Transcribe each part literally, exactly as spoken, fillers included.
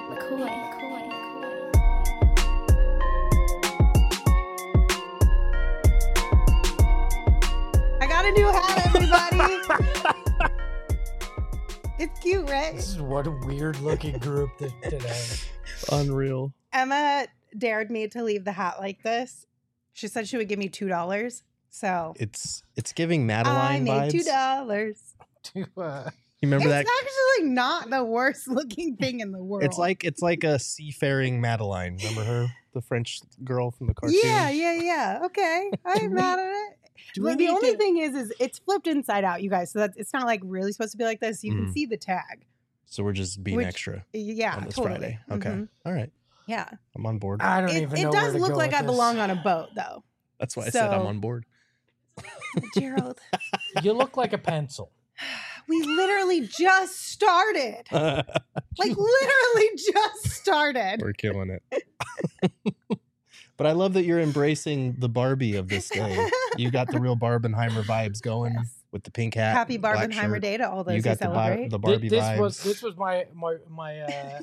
McCoy, McCoy, McCoy. I got a new hat, everybody. It's cute, right? This is what a weird looking group th- today. Unreal. Emma dared me to leave the hat like this. She said she would give me two dollars. So It's it's giving I Madeline made vibes. two dollars. To, uh, You remember It's that? actually not the worst looking thing in the world. It's like it's like a seafaring Madeline. Remember her, the French girl from the cartoon? yeah, yeah, yeah. Okay, I'm we- mad at it. do we But the need only to- thing is, is it's flipped inside out, you guys. So that's it's not like really supposed to be like this. You can Mhm. see the tag. So we're just being Which- extra Yeah, on this totally. Friday. Okay, Mhm. all right, Yeah, I'm on board. I don't it, even it know where does to look go like with I this. belong on a boat, though. That's why I said I'm so- on board. Gerald, You look like a pencil. we literally just started. We're Like literally just started. killing it. But I love that you're embracing the Barbie of this day. You got the real Barbenheimer vibes going Yes. with the pink hat. Happy black Barbenheimer shirt. Day to all those You who got the, bar- celebrate. the Thi- Barbie this vibes. was this was my my my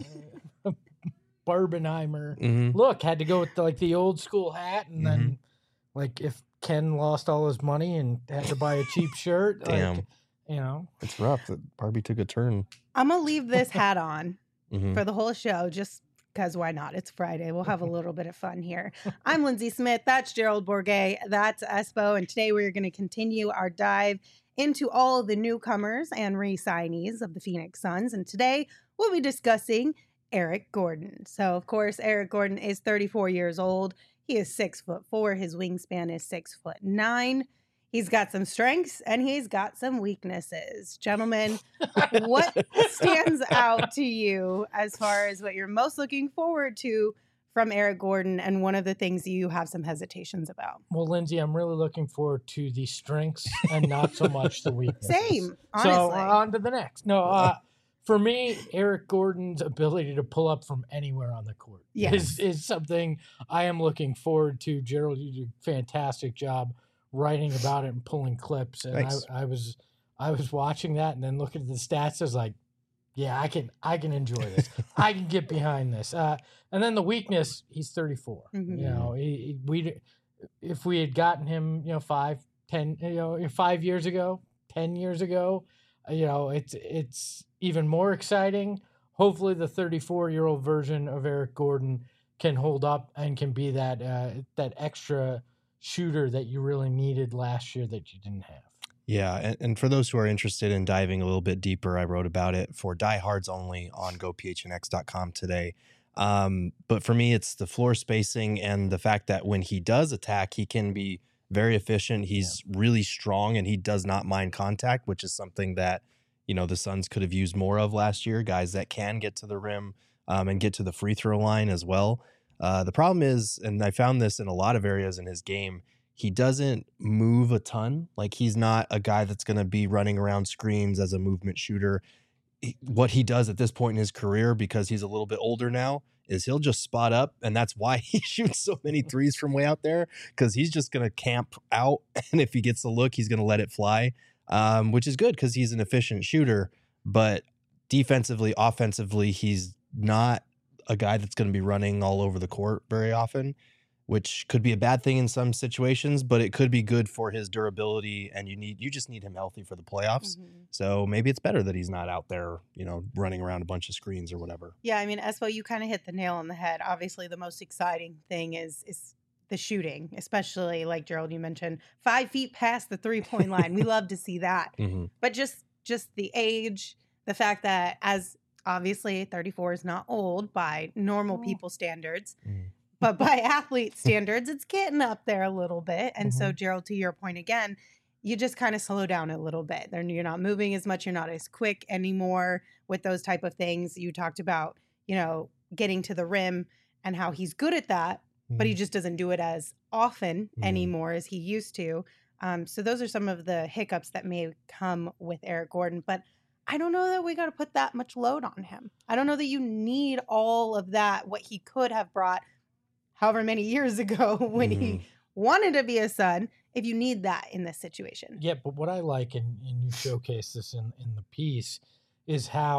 uh, Barbenheimer Mhm. look. Had to go with the, like the old school hat, and then like if Ken lost all his money and had to buy a cheap shirt, Damn. like, you know. It's rough that Barbie took a turn. I'm gonna leave this hat on Mhm. for the whole show just because why not? It's Friday. We'll have a little bit of fun here. I'm Lindsay Smith. That's Gerald Bourget. That's Espo. And today we're going to continue our dive into all the newcomers and re-signees of the Phoenix Suns. And today we'll be discussing Eric Gordon. So, of course, Eric Gordon is thirty-four years old. He is six foot four. His wingspan is six foot nine. He's got some strengths and he's got some weaknesses. Gentlemen, what stands out to you as far as what you're most looking forward to from Eric Gordon and one of the things you have some hesitations about? Well, Lindsay, I'm really looking forward to the strengths and not so much the weaknesses. Same, honestly. So on to the next. No, uh, for me, Eric Gordon's ability to pull up from anywhere on the court Yes. is, is something I am looking forward to. Gerald, you did a fantastic job writing about it and pulling clips. And Thanks. I, I was I was watching that and then looking at the stats. I was like, yeah, I can I can enjoy this. I can get behind this. Uh, and then the weakness, he's thirty-four. Mhm. You know, he, he- we if we had gotten him, you know, five, ten, you know, five years ago, ten years ago, uh, you know, it's it's even more exciting. Hopefully, the thirty-four-year-old version of Eric Gordon can hold up and can be that uh, that extra shooter that you really needed last year that you didn't have. Yeah, and, and for those who are interested in diving a little bit deeper, I wrote about it for diehards only on go p h n x dot com today. Um, but for me, it's the floor spacing and the fact that when he does attack, he can be very efficient. He's really strong and he does not mind contact, which is something that, you know, the Suns could have used more of last year, guys that can get to the rim um, and get to the free throw line as well. Uh, the problem is, and I found this in a lot of areas in his game, he doesn't move a ton. Like he's not a guy that's going to be running around screens as a movement shooter. He- what he does at this point in his career, because he's a little bit older now, is he'll just spot up. And that's why he shoots so many threes from way out there, because he's just going to camp out. And if he gets the look, he's going to let it fly, um, which is good because he's an efficient shooter. But defensively, offensively, he's not a guy that's going to be running all over the court very often, which could be a bad thing in some situations, but it could be good for his durability. And you need, you just need him healthy for the playoffs. Mhm. So maybe it's better that he's not out there, you know, running around a bunch of screens or whatever. Yeah, I mean, Espo, you kind of hit the nail on the head. Obviously, the most exciting thing is is the shooting, especially like Gerald, you mentioned, five feet past the three point line. We love to see that. Mm-hmm. But just just the age, the fact that as obviously thirty-four is not old by normal Mm. people standards, Mm. but by athlete standards, it's getting up there a little bit. And so, Gerald, to your point again, you just kind of slow down a little bit. Then you're not moving as much. You're not as quick anymore with those type of things. You talked about, you know, getting to the rim and how he's good at that, but he just doesn't do it as often Mhm. anymore as he used to. Um, so those are some of the hiccups that may come with Eric Gordon. But I don't know that we got to put that much load on him. I don't know that you need all of that, what he could have brought however many years ago when he Mhm. wanted to be a Sun, if you need that in this situation. Yeah, but what I like, and, and you showcase this in, in the piece, is how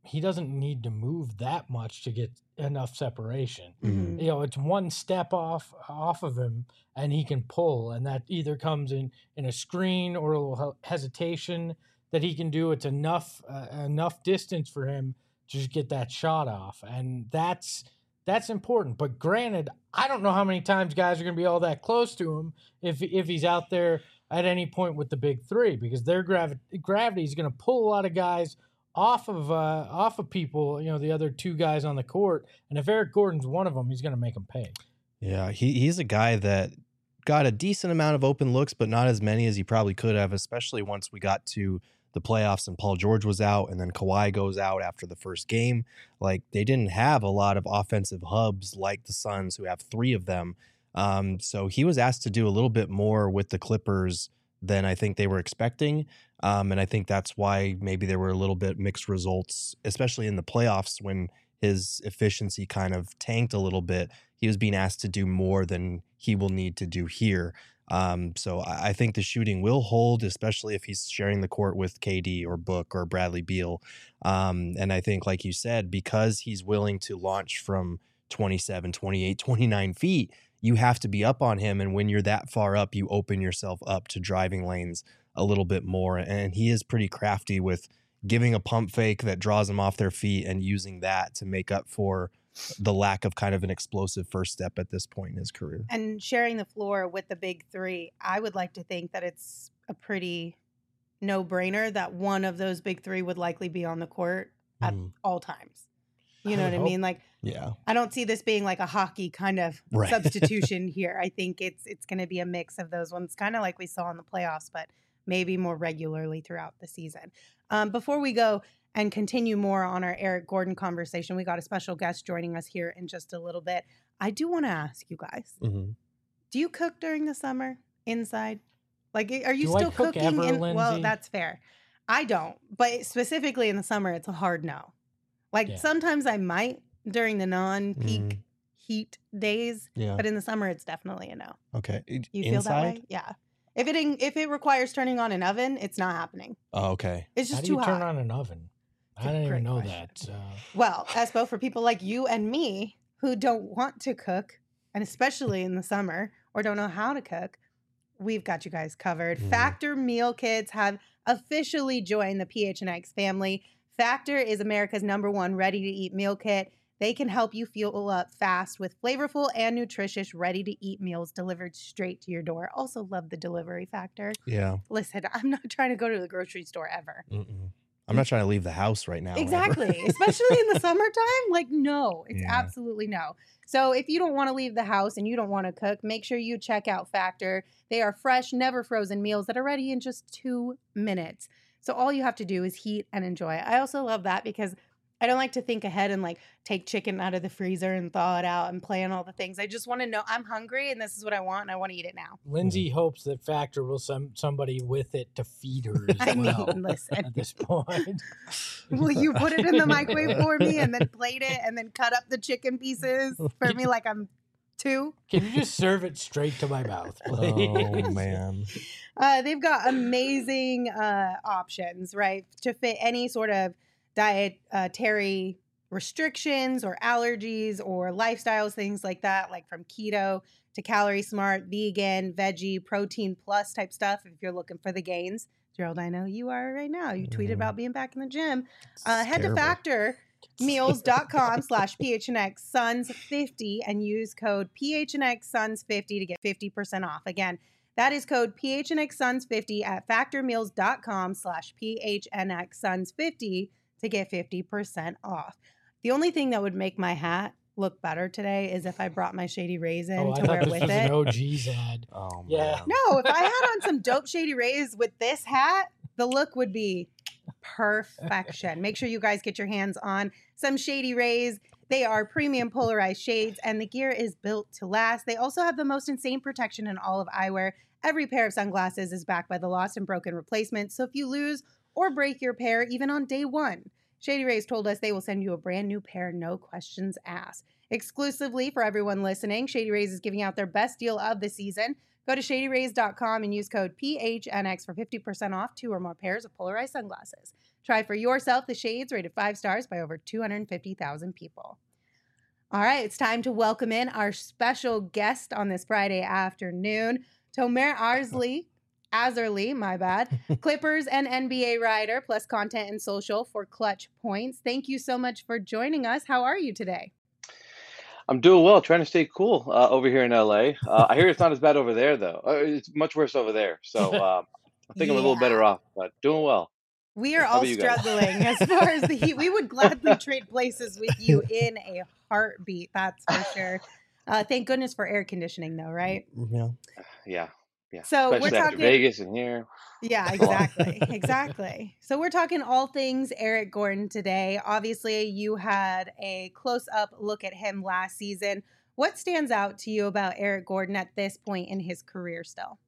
he doesn't need to move that much to get enough separation. Mhm. You know, it's one step off off of him, and he can pull, and that either comes in in a screen or a little he- hesitation that he can do. It's enough uh, enough distance for him to just get that shot off, and that's that's important. But granted, I don't know how many times guys are going to be all that close to him if if he's out there at any point with the big three, because their gravi- gravity is going to pull a lot of guys off of uh, off of people, you know, the other two guys on the court. And if Eric Gordon's one of them, he's going to make them pay. Yeah, he he's a guy that got a decent amount of open looks, but not as many as he probably could have, especially once we got to the playoffs and Paul George was out and then Kawhi goes out after the first game. Like, they didn't have a lot of offensive hubs like the Suns, who have three of them. Um, so he was asked to do a little bit more with the Clippers than I think they were expecting. Um, and I think that's why maybe there were a little bit mixed results, especially in the playoffs when his efficiency kind of tanked a little bit. He was being asked to do more than he will need to do here. Um, so I, I think the shooting will hold, especially if he's sharing the court with K D or Book or Bradley Beal. Um, and I think, like you said, because he's willing to launch from twenty-seven, twenty-eight, twenty-nine feet, you have to be up on him. And when you're that far up, you open yourself up to driving lanes a little bit more. And he is pretty crafty with giving a pump fake that draws them off their feet and using that to make up for the lack of kind of an explosive first step at this point in his career. And sharing the floor with the big three, I would like to think that it's a pretty no-brainer that one of those big three would likely be on the court at Mhm. all times. You I know would what I hope. mean? Like, Yeah. I don't see this being like a hockey kind of Right. substitution here. I think it's it's going to be a mix of those ones, kind of like we saw in the playoffs, but maybe more regularly throughout the season. Um, before we go and continue more on our Eric Gordon conversation, we got a special guest joining us here in just a little bit. I do want to ask you guys, Mm-hmm. do you cook during the summer inside? Like, are you Do I still cook cooking? ever, in, well, Lindsay? that's fair. I don't, but specifically in the summer, it's a hard no. Like, Yeah. sometimes I might during the non-peak Mm. heat days, Yeah. but in the summer, it's definitely a no. Okay. You feel that way? Yeah. If it in, if it requires turning on an oven, it's not happening. Oh, okay. It's How just do you too turn hot. on an oven? I It's a didn't great even know question. that. So. Well, Espo, for people like you and me who don't want to cook, and especially in the summer, or don't know how to cook, we've got you guys covered. Mhm. Factor meal kits have officially joined the P H N X family. Factor is America's number one ready-to-eat meal kit. They can help you fuel up fast with flavorful and nutritious ready-to-eat meals delivered straight to your door. Also love the delivery factor. Yeah. Listen, I'm not trying to go to the grocery store ever. Mm-mm. I'm not trying to leave the house right now. ever. Exactly. Especially in the summertime. Like, no, it's Yeah. absolutely no. So if you don't want to leave the house and you don't want to cook, make sure you check out Factor. They are fresh, never frozen meals that are ready in just two minutes. So all you have to do is heat and enjoy. I also love that because I don't like to think ahead and like take chicken out of the freezer and thaw it out and plan all the things. I just want to know I'm hungry and this is what I want and I want to eat it now. Lindsay hopes that Factor will send somebody with it to feed her as I well mean, listen. at this point. Will you put it in the microwave for me and then plate it and then cut up the chicken pieces for me like I'm two? Can you just serve it straight to my mouth, please? Oh, man. Uh, they've got amazing uh, options, right, to fit any sort of dietary restrictions or allergies or lifestyles, things like that, like from keto to calorie smart, vegan, veggie, protein plus type stuff if you're looking for the gains. Gerald, I know you are right now. You tweeted Mhm. about being back in the gym. Uh, It's head terrible. to factormeals.com slash PHNX Suns fifty and use code P H N X Suns fifty to get fifty percent off. Again, that is code P H N X Suns fifty at factormeals.com slash PHNX Suns fifty to get fifty percent off. The only thing that would make my hat look better today is if I brought my Shady Rays in Oh, I to wear thought this with was it. an O G's ad. Oh, Yeah. man. No, if I had on some dope Shady Rays with this hat, the look would be perfection. Make sure you guys get your hands on some Shady Rays. They are premium polarized shades, and the gear is built to last. They also have the most insane protection in all of eyewear. Every pair of sunglasses is backed by the lost and broken replacement, so if you lose or break your pair, even on day one, Shady Rays told us they will send you a brand new pair, no questions asked. Exclusively for everyone listening, Shady Rays is giving out their best deal of the season. Go to shady rays dot com and use code P H N X for fifty percent off two or more pairs of polarized sunglasses. Try for yourself the shades rated five stars by over two hundred fifty thousand people. All right, it's time to welcome in our special guest on this Friday afternoon, Tomer Arsley, Azerly, my bad, Clippers and N B A writer, plus content and social for Clutch Points. Thank you so much for joining us. How are you today? I'm doing well, trying to stay cool uh, over here in L A. Uh, I hear it's not as bad over there, though. Uh, it's much worse over there. So uh, I think I'm a little better Yeah. off, but doing well. We are How all about you guys? struggling as far as the heat. We would gladly trade places with you in a heartbeat, that's for sure. Uh, thank goodness for air conditioning, though, right? Yeah. Yeah, yeah. So we're Especially after talking- Vegas and here. Yeah, exactly. Exactly. So we're talking all things Eric Gordon today. Obviously, you had a close-up look at him last season. What stands out to you about Eric Gordon at this point in his career still?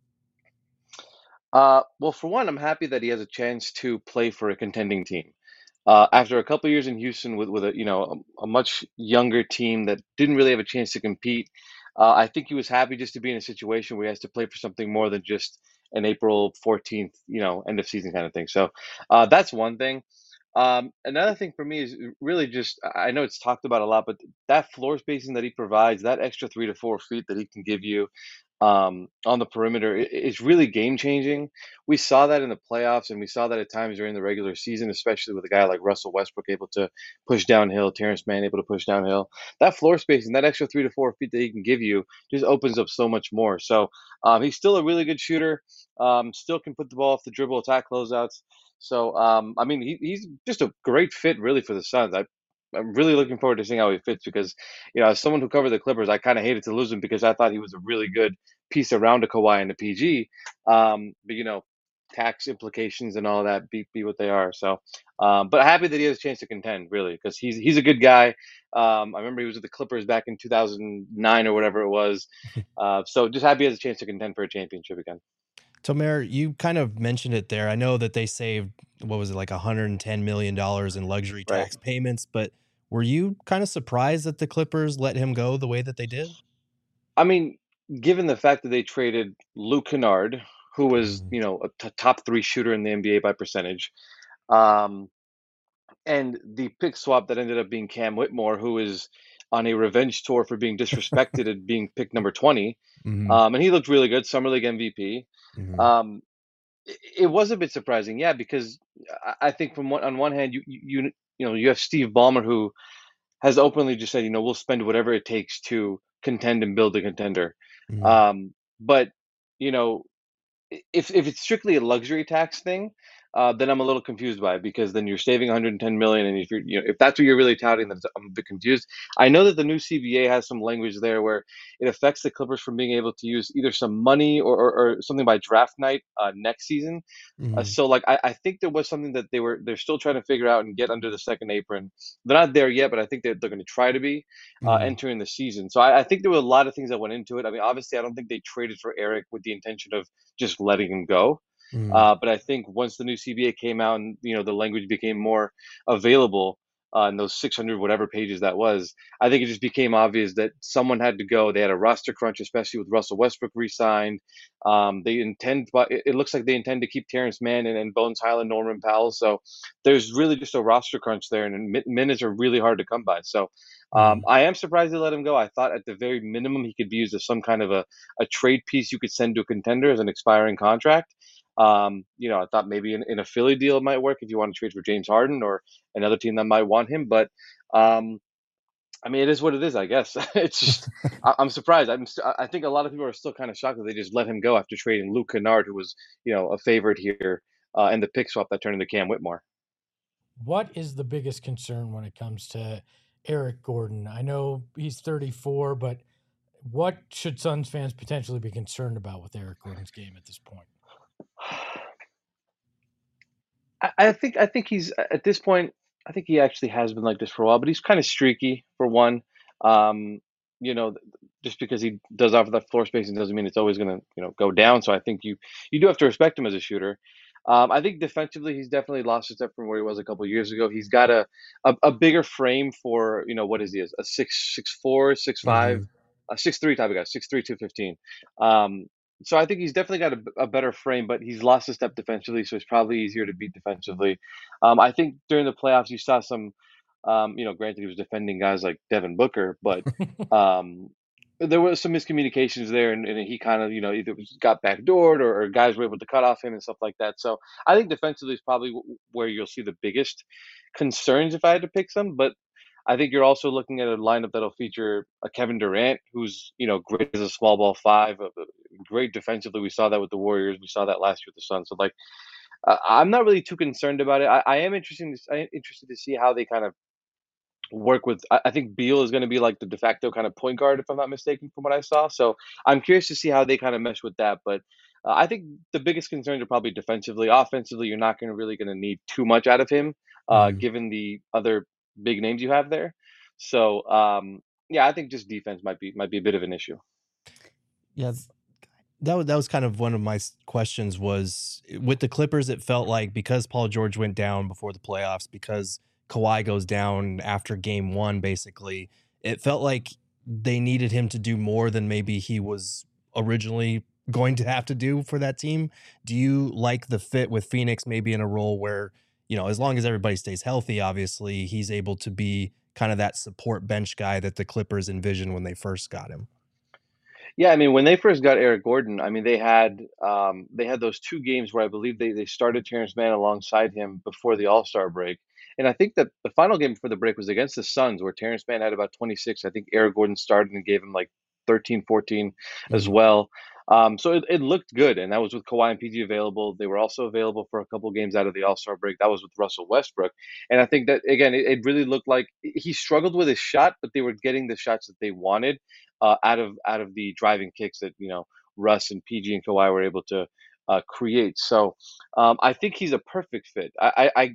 Uh, well, for one, I'm happy that he has a chance to play for a contending team. Uh, after a couple years in Houston with with a you know a, a much younger team that didn't really have a chance to compete, uh, I think he was happy just to be in a situation where he has to play for something more than just an April fourteenth, you know, end of season kind of thing. So uh, that's one thing. Um, another thing for me is really just I know it's talked about a lot, but that floor spacing that he provides, that extra three to four feet that he can give you um, on the perimeter, i- is really game changing. We saw that in the playoffs, and we saw that at times during the regular season, especially with a guy like Russell Westbrook able to push downhill, Terrence Mann able to push downhill. That floor spacing, that extra three to four feet that he can give you, just opens up so much more. So um, he's still a really good shooter. Um, still can put the ball off the dribble, attack closeouts. So, um, I mean, he, he's just a great fit, really, for the Suns. I, I'm really looking forward to seeing how he fits because, you know, as someone who covered the Clippers, I kind of hated to lose him because I thought he was a really good piece around a Kawhi and a P G. Um, but, you know, tax implications and all that be, be what they are. So, um, but happy that he has a chance to contend, really, because he's he's a good guy. Um, I remember he was with the Clippers back in two thousand nine or whatever it was. Uh, so just happy he has a chance to contend for a championship again. Tomer, you kind of mentioned it there. I know that they saved, what was it, like one hundred ten million dollars in luxury Right. tax payments, but were you kind of surprised that the Clippers let him go the way that they did? I mean, given the fact that they traded Luke Kennard, who was, Mhm. you know, a t- top three shooter in the N B A by percentage, um, and the pick swap that ended up being Cam Whitmore, who is on a revenge tour for being disrespected and being picked number twenty, Mhm. um, and he looked really good, Summer League M V P. Mhm. Um, it, it was a bit surprising, yeah, because I, I think from one, on one hand, you you you know you have Steve Ballmer, who has openly just said, you know, we'll spend whatever it takes to contend and build a contender. Mhm. Um, but you know, i- if if it's strictly a luxury tax thing, uh, then I'm a little confused by it because then you're saving one hundred ten million, and if you're you know if that's what you're really touting, then I'm a bit confused. I know that the new C B A has some language there where it affects the Clippers from being able to use either some money or or, or something by draft night uh, next season. Uh, Mhm. so like I, I think there was something that they were they're still trying to figure out and get under the second apron. They're not there yet, but I think they're, they're going to try to be uh, Mhm. entering the season. So I, I think there were a lot of things that went into it. I mean, obviously, I don't think they traded for Eric with the intention of just letting him go. Mhm. Uh, but I think once the new C B A came out and you know the language became more available uh, in those six hundred whatever pages that was, I think it just became obvious that someone had to go. They had a roster crunch, especially with Russell Westbrook re-signed. Um, they intend, but it, it looks like they intend to keep Terrence Mann and, and Bones Highland, Norman Powell. So there's really just a roster crunch there, and min- minutes are really hard to come by. So um, Mhm. I am surprised they let him go. I thought at the very minimum he could be used as some kind of a, a trade piece you could send to a contender as an expiring contract. Um, you know, I thought maybe in, in a Philly deal it might work if you want to trade for James Harden or another team that might want him. But um, I mean, it is what it is, I guess. It's just I, I'm surprised. I'm st- I think a lot of people are still kind of shocked that they just let him go after trading Luke Kennard, who was you know a favorite here, uh, and the pick swap that turned into Cam Whitmore. What is the biggest concern when it comes to Eric Gordon? I know he's thirty-four, but what should Suns fans potentially be concerned about with Eric Gordon's game at this point? I, I think I think he's at this point. I think he actually has been like this for a while, but he's kind of streaky for one. Um, you know, th- just because he does offer that floor spacing doesn't mean it's always going to you know go down. So I think you you do have to respect him as a shooter. Um, I think defensively he's definitely lost a step from where he was a couple years ago. He's got a, a a bigger frame for you know what is he a six six four six five Mhm. a six three type of guy six three two fifteen. Um, so I think he's definitely got a, a better frame, but he's lost a step defensively, so it's probably easier to beat defensively. Um, I think during the playoffs you saw some, um, you know, granted he was defending guys like Devin Booker, but um, there was some miscommunications there, and, and he kind of, you know, either was- got backdoored or, or guys were able to cut off him and stuff like that. So I think defensively is probably w- where you'll see the biggest concerns if I had to pick some, but I think you're also looking at a lineup that'll feature a Kevin Durant, who's, you know, great as a small ball five, uh, uh, great defensively. We saw that with the Warriors. We saw that last year with the Suns. So like, uh, I'm not really too concerned about it. I, I am interested. To, I am interested to see how they kind of work with. I, I think Beal is going to be like the de facto kind of point guard, if I'm not mistaken, from what I saw. So I'm curious to see how they kind of mesh with that. But uh, I think the biggest concerns are probably defensively. Offensively, you're not going to really going to need too much out of him, uh, Mhm. given the other big names you have there. So um, yeah, I think just defense might be might be a bit of an issue. Yeah, that was that was kind of one of my s- questions was with the Clippers. It felt like because Paul George went down before the playoffs, because Kawhi goes down after game one, basically, it felt like they needed him to do more than maybe he was originally going to have to do for that team. Do you like the fit with Phoenix, maybe in a role where, you know, as long as everybody stays healthy, obviously he's able to be kind of that support bench guy that the Clippers envisioned when they first got him? Yeah, I mean, when they first got Eric Gordon, I mean, they had um, they had those two games where I believe they they started Terrence Mann alongside him before the All Star break, and I think that the final game before the break was against the Suns, where Terrence Mann had about twenty-six. I think Eric Gordon started and gave him like thirteen, fourteen as Mhm. well. Um, so it, it looked good, and that was with Kawhi and P G available. They were also available for a couple games out of the All Star break. That was with Russell Westbrook, and I think that again, it, it really looked like he struggled with his shot, but they were getting the shots that they wanted uh, out of out of the driving kicks that you know Russ and P G and Kawhi were able to uh, create. So um, I think he's a perfect fit. I, I, I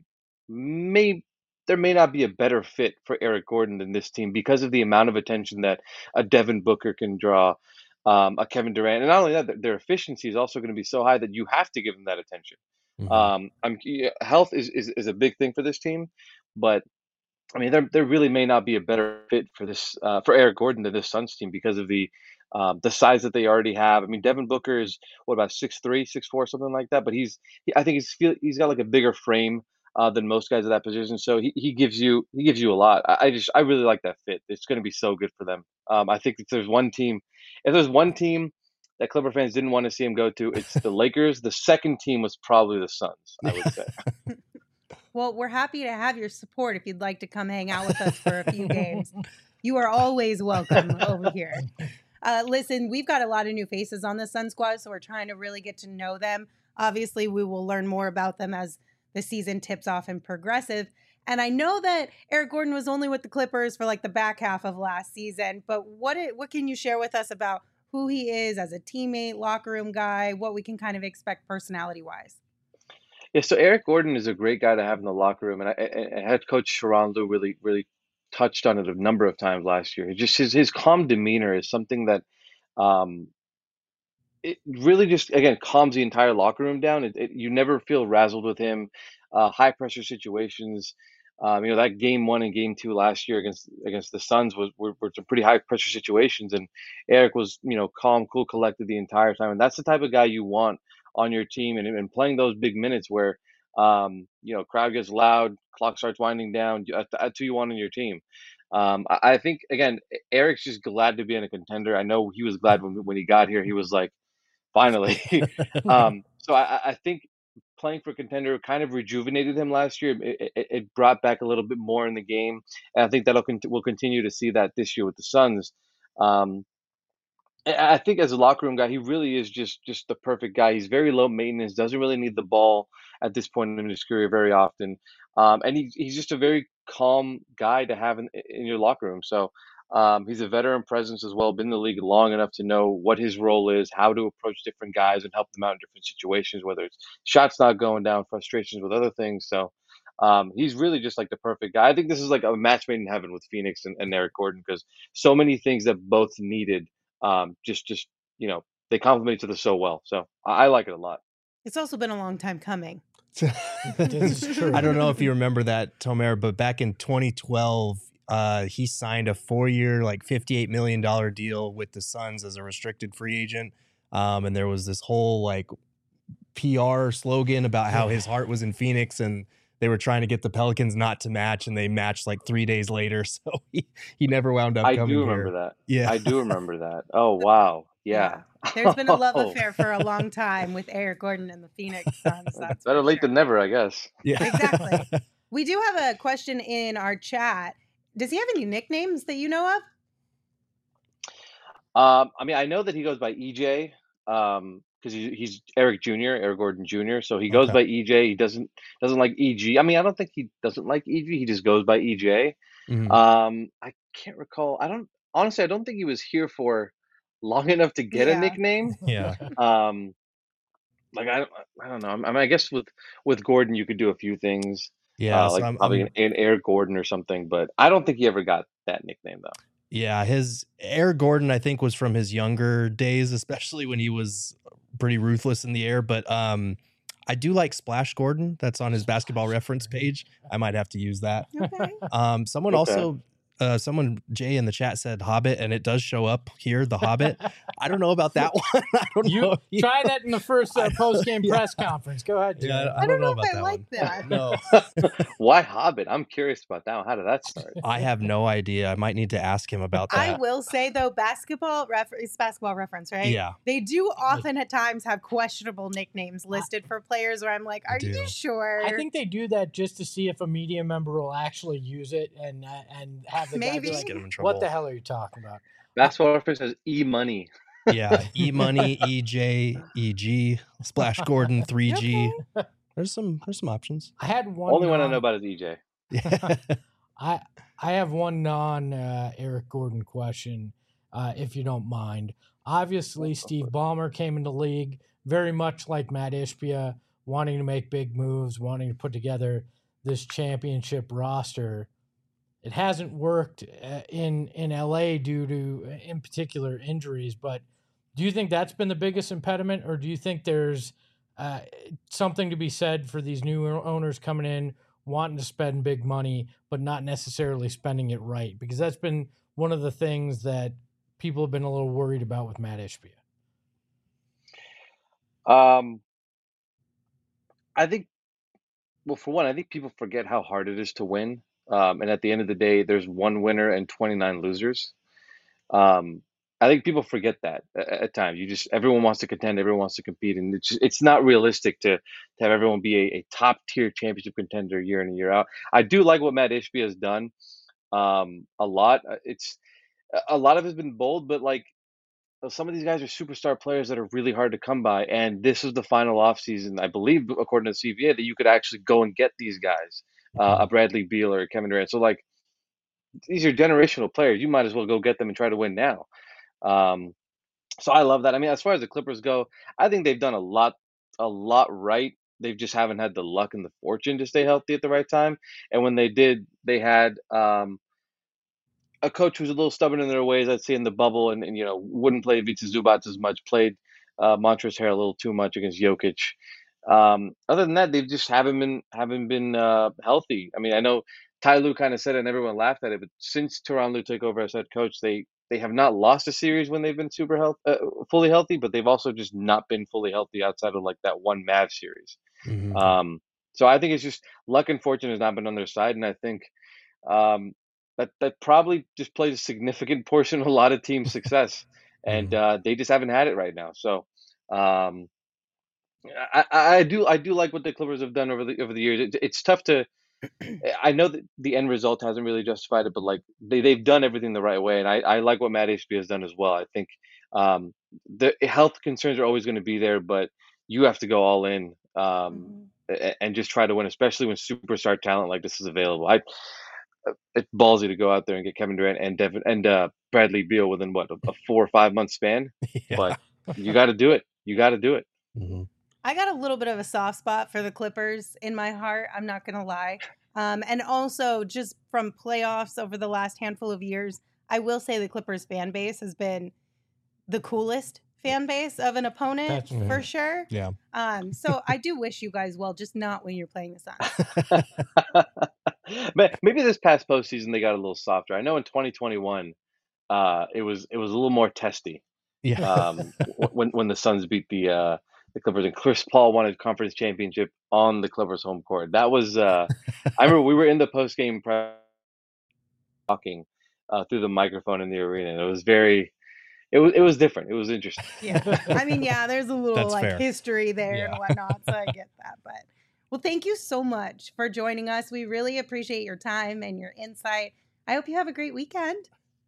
may there may not be a better fit for Eric Gordon than this team because of the amount of attention that a Devin Booker can draw, um, a Kevin Durant, and not only that, their efficiency is also going to be so high that you have to give them that attention. Mhm. Um, I'm yeah, health is, is is a big thing for this team, but I mean, there there really may not be a better fit for this uh, for Eric Gordon than this Suns team because of the um, the size that they already have. I mean, Devin Booker is what about six three, six four, something like that. But he's he, I think he's feel he's got like a bigger frame uh, than most guys at that position. So he, he gives you he gives you a lot. I, I just I really like that fit. It's going to be so good for them. Um, I think if there's one team, if there's one team that Clipper fans didn't want to see him go to, it's the Lakers. The second team was probably the Suns, I would say. Well, we're happy to have your support if you'd like to come hang out with us for a few games. You are always welcome over here. Uh, listen, we've got a lot of new faces on the Sun Squad, so we're trying to really get to know them. Obviously, we will learn more about them as the season tips off and progressive. And I know that Eric Gordon was only with the Clippers for like the back half of last season, but what it, what can you share with us about who he is as a teammate, locker room guy, what we can kind of expect personality wise? Yeah, so Eric Gordon is a great guy to have in the locker room, and I, and and head coach Sharon Lou really, really touched on it a number of times last year. Just his his calm demeanor is something that um, it really just again calms the entire locker room down. It, it, you never feel razzled with him. Uh, high pressure situations. Um, you know that game one and game two last year against against the Suns was were, were some pretty high pressure situations, and Eric was you know calm, cool, collected the entire time, and that's the type of guy you want on your team, and, and playing those big minutes where um, you know crowd gets loud, clock starts winding down. That's, that's who you want on your team. Um, I, I think again, Eric's just glad to be in a contender. I know he was glad when when he got here. He was like finally. um, so I, I think playing for contender kind of rejuvenated him last year. It, it, it brought back a little bit more in the game, and I think that'll con- we'll continue to see that this year with the Suns. Um, I I think as a locker room guy, he really is just just the perfect guy. He's very low maintenance, doesn't really need the ball at this point in his career very often, um, and he, he's just a very calm guy to have in, in your locker room. So um, he's a veteran presence as well, been in the league long enough to know what his role is, how to approach different guys and help them out in different situations, whether it's shots not going down, frustrations with other things. So um, he's really just like the perfect guy. I think this is like a match made in heaven with Phoenix and, and Eric Gordon because so many things that both needed um, just just you know they complement each other so well. So I, I like it a lot. It's also been a long time coming. This is true. I don't know if you remember that, Tomer, but back in twenty twelve, uh, he signed a four-year, like fifty-eight million dollars deal with the Suns as a restricted free agent. Um, and there was this whole like P R slogan about how his heart was in Phoenix, and they were trying to get the Pelicans not to match, and they matched like three days later. So he, he never wound up I coming do remember here. that. Yeah. I do remember that. Oh, wow. Yeah. There's been a love Oh, affair for a long time with Eric Gordon and the Phoenix Suns. That's better for late sure. than never, I guess. Yeah. Exactly. We do have a question in our chat. Does he have any nicknames that you know of? Um, I mean, I know that he goes by E J, um, because he, he's Eric Junior, Eric Gordon Junior So he goes Okay. by E J. He doesn't doesn't like E G. I mean, I don't think he doesn't like E G. He just goes by E J. Mhm. Um, I can't recall. I don't honestly. I don't think he was here for long enough to get a Yeah. nickname. Yeah. Um, like I, don't- I don't know. I mean, I guess with with Gordon, you could do a few things. Yeah. Uh, So like I'm, probably I'm an, an Eric Gordon or something. But I don't think he ever got that nickname though. Yeah, his Eric Gordon, I think, was from his younger days, especially when he was pretty ruthless in the air. But um, I do like Splash Gordon. That's on his basketball reference page. I might have to use that. Okay. Um, someone Okay. also, uh, someone Jay in the chat said Hobbit, and it does show up here, the Hobbit. I don't know about that one. I don't You know. try that in the first uh, post game Yeah. press conference. Go ahead, Jay. Yeah, I don't know if I that like one. that. No, Why Hobbit? I'm curious about that one. How did that start? I have no idea. I might need to ask him about I that. will say though, basketball refer- it's basketball reference, right? Yeah. They do often at times have questionable nicknames listed for players where I'm like, are do. you sure? I think they do that just to see if a media member will actually use it and uh, and have the guy Maybe. be Just get like, him in trouble. "What the hell are you talking about?" Basketball reference says E Money. Yeah, E Money, E J, E G, Splash Gordon, three G. Okay. There's some there's some options. I had one. Only one I non- know about is E J. Yeah. I I have one non uh, Eric Gordon question, uh, if you don't mind. Obviously, Steve Ballmer came into the league very much like Matt Ishbia, wanting to make big moves, wanting to put together this championship roster. It hasn't worked uh, in in L A due to, uh, in particular, injuries. But do you think that's been the biggest impediment, or do you think there's uh, something to be said for these new owners coming in, wanting to spend big money, but not necessarily spending it right? Because that's been one of the things that people have been a little worried about with Matt Ishbia. Um, I think, well, for one, I think people forget how hard it is to win. Um, and at the end of the day, there's one winner and twenty-nine losers. Um, I think people forget that at, at times. You just everyone wants to contend, everyone wants to compete, and it's just, it's not realistic to to have everyone be a, a top tier championship contender year in and year out. I do like what Matt Ishbia has done um, a lot. Uh, It's a lot of it's been bold, but like some of these guys are superstar players that are really hard to come by. And this is the final offseason, I believe, according to the C V A, that you could actually go and get these guys, uh, a Bradley Beal or a Kevin Durant. So like these are generational players. You might as well go get them and try to win now. Um, so I love that. I mean, as far as the Clippers go, I think they've done a lot, a lot right. They just haven't had the luck and the fortune to stay healthy at the right time. And when they did, they had um, a coach who's a little stubborn in their ways, I'd say, in the bubble, and, and you know wouldn't play Ivica Zubac as much, played uh, Montrezl Harrell a little too much against Jokic. Um, other than that, they just haven't been haven't been uh, healthy. I mean, I know Ty Lue kind of said it, and everyone laughed at it, but since Tyronn Lue took over as head coach, they they have not lost a series when they've been super health, uh, fully healthy, but they've also just not been fully healthy outside of like that one Mavs series. Mhm. Um, so I think it's just luck and fortune has not been on their side, and I think um, that that probably just plays a significant portion of a lot of teams' success, and uh, they just haven't had it right now. So um, I, I I do I do like what the Clippers have done over the over the years. It, it's tough to. I know that the end result hasn't really justified it, but like they they've done everything the right way, and I, I like what Matt Ishbia has done as well. I think um, the health concerns are always going to be there, but you have to go all in um, a- and just try to win, especially when superstar talent like this is available. I it's ballsy to go out there and get Kevin Durant and Devin and uh, Bradley Beal within what a, a four or five month span, Yeah. but you got to do it. You got to do it. Mhm. I got a little bit of a soft spot for the Clippers in my heart. I'm not going to lie. Um, and also, just from playoffs over the last handful of years, I will say the Clippers fan base has been the coolest fan base of an opponent That's for right. sure. Yeah. Um, so I do wish you guys well, just not when you're playing the Suns. But maybe this past postseason they got a little softer. I know in twenty twenty-one, uh, it was it was a little more testy. Yeah. um, when when the Suns beat the uh, the Clippers, and Chris Paul won a conference championship on the Clippers home court. That was uh, I remember we were in the post game press talking uh, through the microphone in the arena, and it was very it was it was different. It was interesting. Yeah. I mean, yeah, there's a little That's like fair. history there Yeah. and whatnot, so I get that. But well, thank you so much for joining us. We really appreciate your time and your insight. I hope you have a great weekend.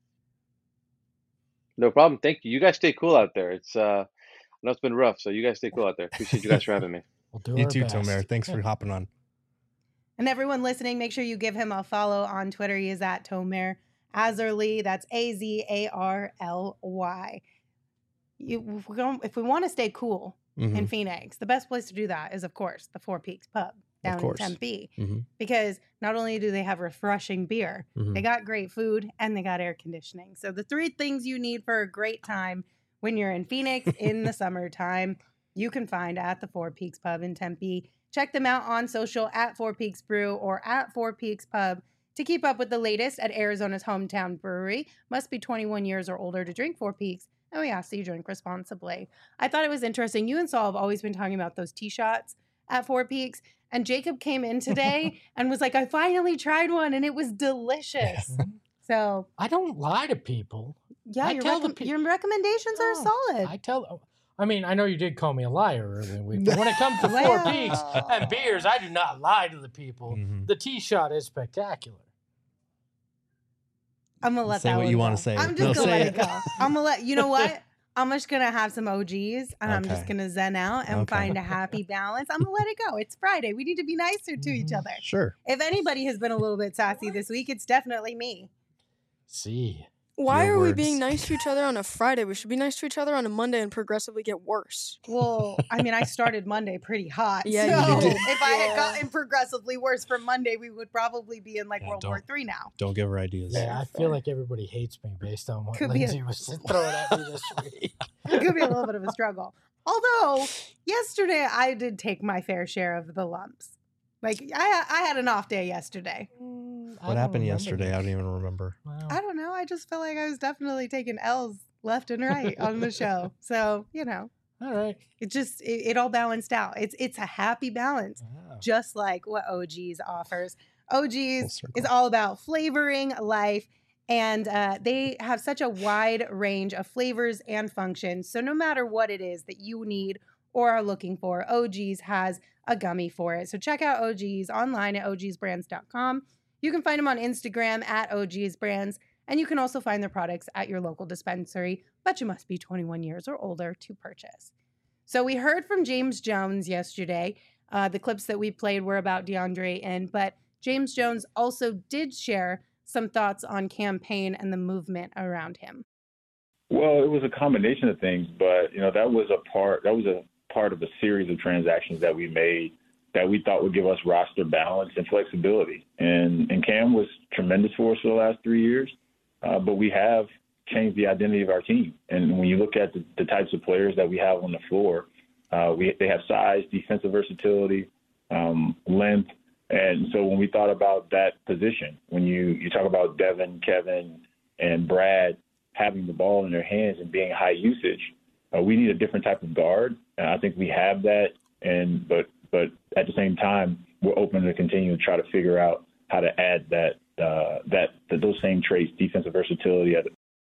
No problem. Thank you. You guys stay cool out there. It's uh, I know it's been rough, so you guys stay cool out there. Appreciate you guys for having me. We'll do You our too, best. Tomer. Thanks for hopping on. And everyone listening, make sure you give him a follow on Twitter. He is at Tomer Azarly. That's A Z A R L Y. You, if we don't- if we want to stay cool Mhm. in Phoenix, the best place to do that is, of course, the Four Peaks Pub down in course. Tempe. Mhm. Because not only do they have refreshing beer, Mhm. they got great food and they got air conditioning. So the three things you need for a great time when you're in Phoenix in the summertime, you can find at the Four Peaks Pub in Tempe. Check them out on social at Four Peaks Brew or at Four Peaks Pub to keep up with the latest at Arizona's hometown brewery. Must be twenty-one years or older to drink Four Peaks, and we ask that you drink responsibly. I thought it was interesting. You and Saul have always been talking about those tea shots at Four Peaks, and Jacob came in today and was like, I finally tried one, and it was delicious. So, I don't lie to people. yeah, I your, tell the recom- pe- your recommendations are No, solid. I tell. I mean, I know you did call me a liar earlier in the week, but when it comes to Four Well. Peaks and beers, I do not lie to the people. Mhm. The tea shot is spectacular. I'm gonna let Say that what one you go. wanna say. I'm No, just gonna say let it. it go. I'm gonna let you know what. I'm just gonna have some O Gs and I'm just Okay. gonna zen out and Okay. find a happy balance. I'm gonna let it go. It's Friday. We need to be nicer to each Mhm. other. Sure. If anybody has been a little bit sassy this week, it's definitely me. See, Why Your are we words. being nice to each other on a Friday? We should be nice to each other on a Monday and progressively get worse. Well, I mean, I started Monday pretty hot. Yeah, so you did. if I had Yeah. gotten progressively worse from Monday, we would probably be in like Yeah, World War Three now. Don't give her ideas. yeah, I feel like everybody hates me based on what Could be a- Lindsay was throwing at me this week. It could be a little bit of a struggle. Although yesterday I did take my fair share of the lumps. Like I, I had an off day yesterday. Mm, I What don't happened remember yesterday? I this. don't even remember. Wow. I don't know. I just felt like I was definitely taking L's left and right on the show. So you know, All right. it just it, it all balanced out. It's it's a happy balance, Wow. just like what O Gs offers. O Full Gs circle. is all about flavoring life, and uh, they have such a wide range of flavors and functions. So no matter what it is that you need or are looking for, O Gs has a gummy for it. So check out O Gs online at O Gs brands dot com. You can find them on Instagram at O Gs Brands, and you can also find their products at your local dispensary, but you must be twenty-one years or older to purchase. So we heard from James Jones yesterday. Uh, the clips that we played were about DeAndre and but James Jones also did share some thoughts on campaign and the movement around him. Well, it was a combination of things, but you know that was a part. That was a part of a series of transactions that we made that we thought would give us roster balance and flexibility. And and Cam was tremendous for us for the last three years, uh, but we have changed the identity of our team. And when you look at the, the types of players that we have on the floor, uh, we they have size, defensive versatility, um, length. And so when we thought about that position, when you, you talk about Devin, Kevin, and Brad having the ball in their hands and being high usage, uh, we need a different type of guard. And I think we have that. And but but at the same time, we're open to continue to try to figure out how to add that uh, that, that those same traits, defensive versatility.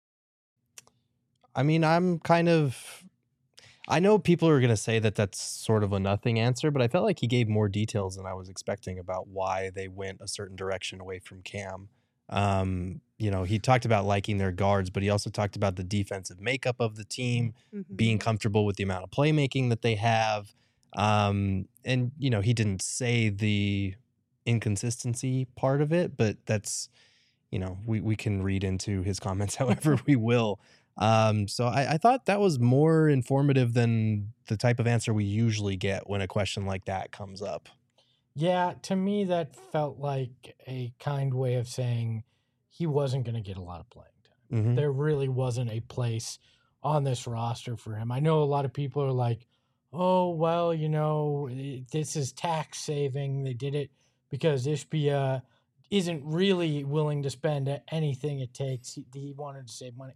I mean, I'm kind of. I know people are going to say that that's sort of a nothing answer, but I felt like he gave more details than I was expecting about why they went a certain direction away from Cam. Um, you know, he talked about liking their guards, but he also talked about the defensive makeup of the team, Mm-hmm. being comfortable with the amount of playmaking that they have. Um, and, you know, he didn't say the inconsistency part of it, but that's, you know, we, we can read into his comments however we will. Um, so I, I thought that was more informative than the type of answer we usually get when a question like that comes up. Yeah, to me, that felt like a kind way of saying he wasn't going to get a lot of playing time. Mhm. There really wasn't a place on this roster for him. I know a lot of people are like, oh, well, you know, i- this is tax saving. They did it because Ishbia isn't really willing to spend a- anything it takes. He, he wanted to save money.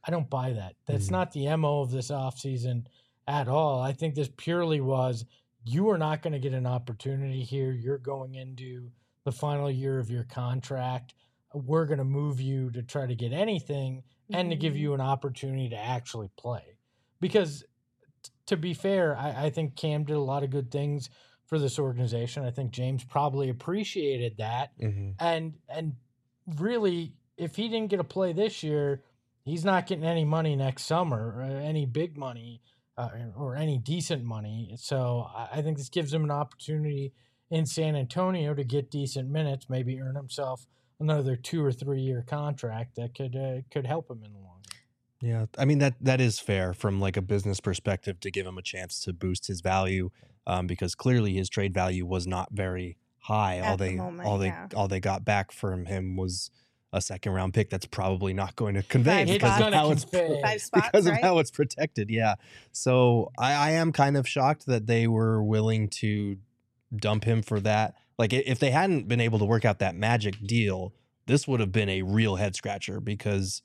I don't buy that. That's Mhm. not the M O of this offseason at all. I think this purely was you are not going to get an opportunity here. You're going into the final year of your contract. We're going to move you to try to get anything and to give Mhm. you an opportunity to actually play. Because t- to be fair, I, I think Cam did a lot of good things for this organization. I think James probably appreciated that. hmm And and really, if he didn't get a play this year, he's not getting any money next summer, or any big money, uh, or any decent money. So I, I think this gives him an opportunity in San Antonio to get decent minutes, maybe earn himself another two or three year contract that could uh, could help him in the long run. Yeah, I mean that that is fair from like a business perspective to give him a chance to boost his value, um, because clearly his trade value was not very high. all At the they moment, all they yeah. all they got back from him was a second round pick that's probably not going to convey Five It's because spots. of gonna how it's convey. Five spots, because of right? how it's protected. Yeah, so I, I am kind of shocked that they were willing to dump him for that. Like i- if they hadn't been able to work out that magic deal, this would have been a real head scratcher because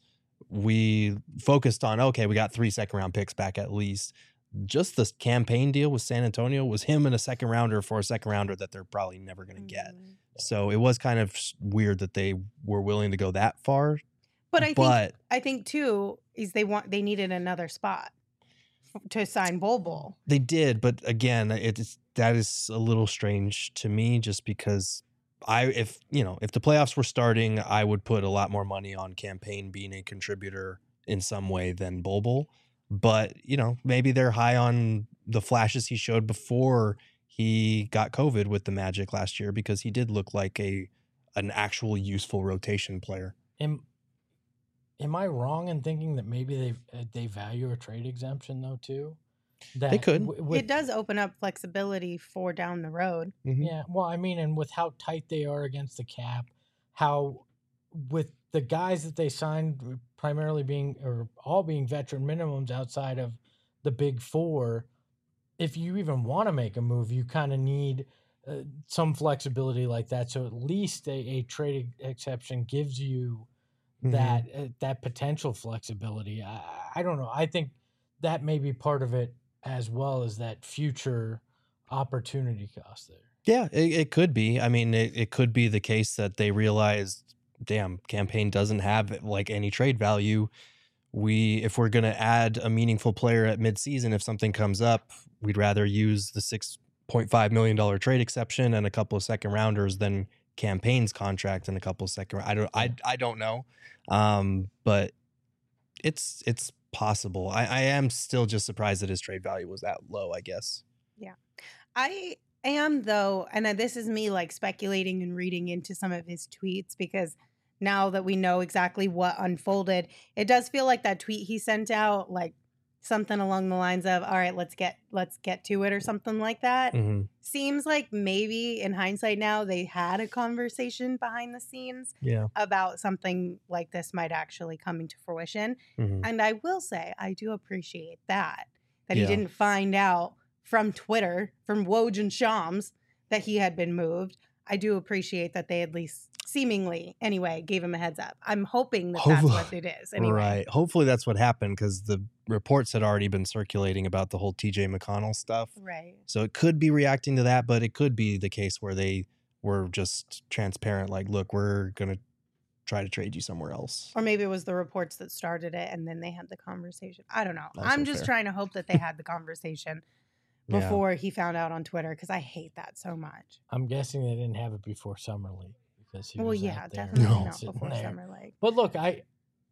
we focused on, okay, we got three second round picks back at least. Just this campaign deal with San Antonio was him and a second rounder for a second rounder that they're probably never going to get. Mhm. So it was kind of s- weird that they were willing to go that far. But I think But I think too is they want they needed another spot f- to sign Bol Bol. they did, but again, it's that is a little strange to me just because I if you know, if the playoffs were starting, I would put a lot more money on campaign being a contributor in some way than Bol Bol. But, you know, maybe they're high on the flashes he showed before he got COVID with the Magic last year because he did look like a an actual useful rotation player. Am am I wrong in thinking that maybe they uh, they value a trade exemption though too? That could. w- with, It does open up flexibility for down the road. Mhm. Yeah, well, I mean, and with how tight they are against the cap, how with the guys that they signed primarily being or all being veteran minimums outside of the big four, if you even want to make a move, you kind of need uh, some flexibility like that. So at least a, a trade exception gives you Mhm. that uh, that potential flexibility. I, I don't know. I think that may be part of it as well as that future opportunity cost there. Yeah, it, it could be. I mean, it, it could be the case that they realized, damn, campaign doesn't have like any trade value. We, if we're going to add a meaningful player at midseason, if something comes up, we'd rather use the six point five million dollars trade exception and a couple of second rounders than campaign's contract and a couple of second. I don't, I, I don't know. Um, but it's, it's possible. I, I am still just surprised that his trade value was that low, I guess. I am though, and uh, this is me like speculating and reading into some of his tweets because now that we know exactly what unfolded, it does feel like that tweet he sent out, like something along the lines of, all right, let's get let's get to it or something like that. Mm-hmm. Seems like maybe in hindsight now they had a conversation behind the scenes Yeah. about something like this might actually come into fruition. Mm-hmm. And I will say, I do appreciate that, that he Yeah. didn't find out from Twitter, from Woj and Shams, that he had been moved. I do appreciate that they at least seemingly, anyway, gave him a heads up. I'm hoping that that's what it is. Anyway. Right. Hopefully that's what happened because the reports had already been circulating about the whole T J McConnell stuff. Right. So it could be reacting to that, but it could be the case where they were just transparent, like, look, we're going to try to trade you somewhere else. Or maybe it was the reports that started it and then they had the conversation. I don't know. Also I'm just fair. trying to hope that they had the conversation Yeah. before he found out on Twitter because I hate that so much. I'm guessing they didn't have it before Summer League because he Well, was yeah, out there definitely No. not sitting before there. Summer League. But look, I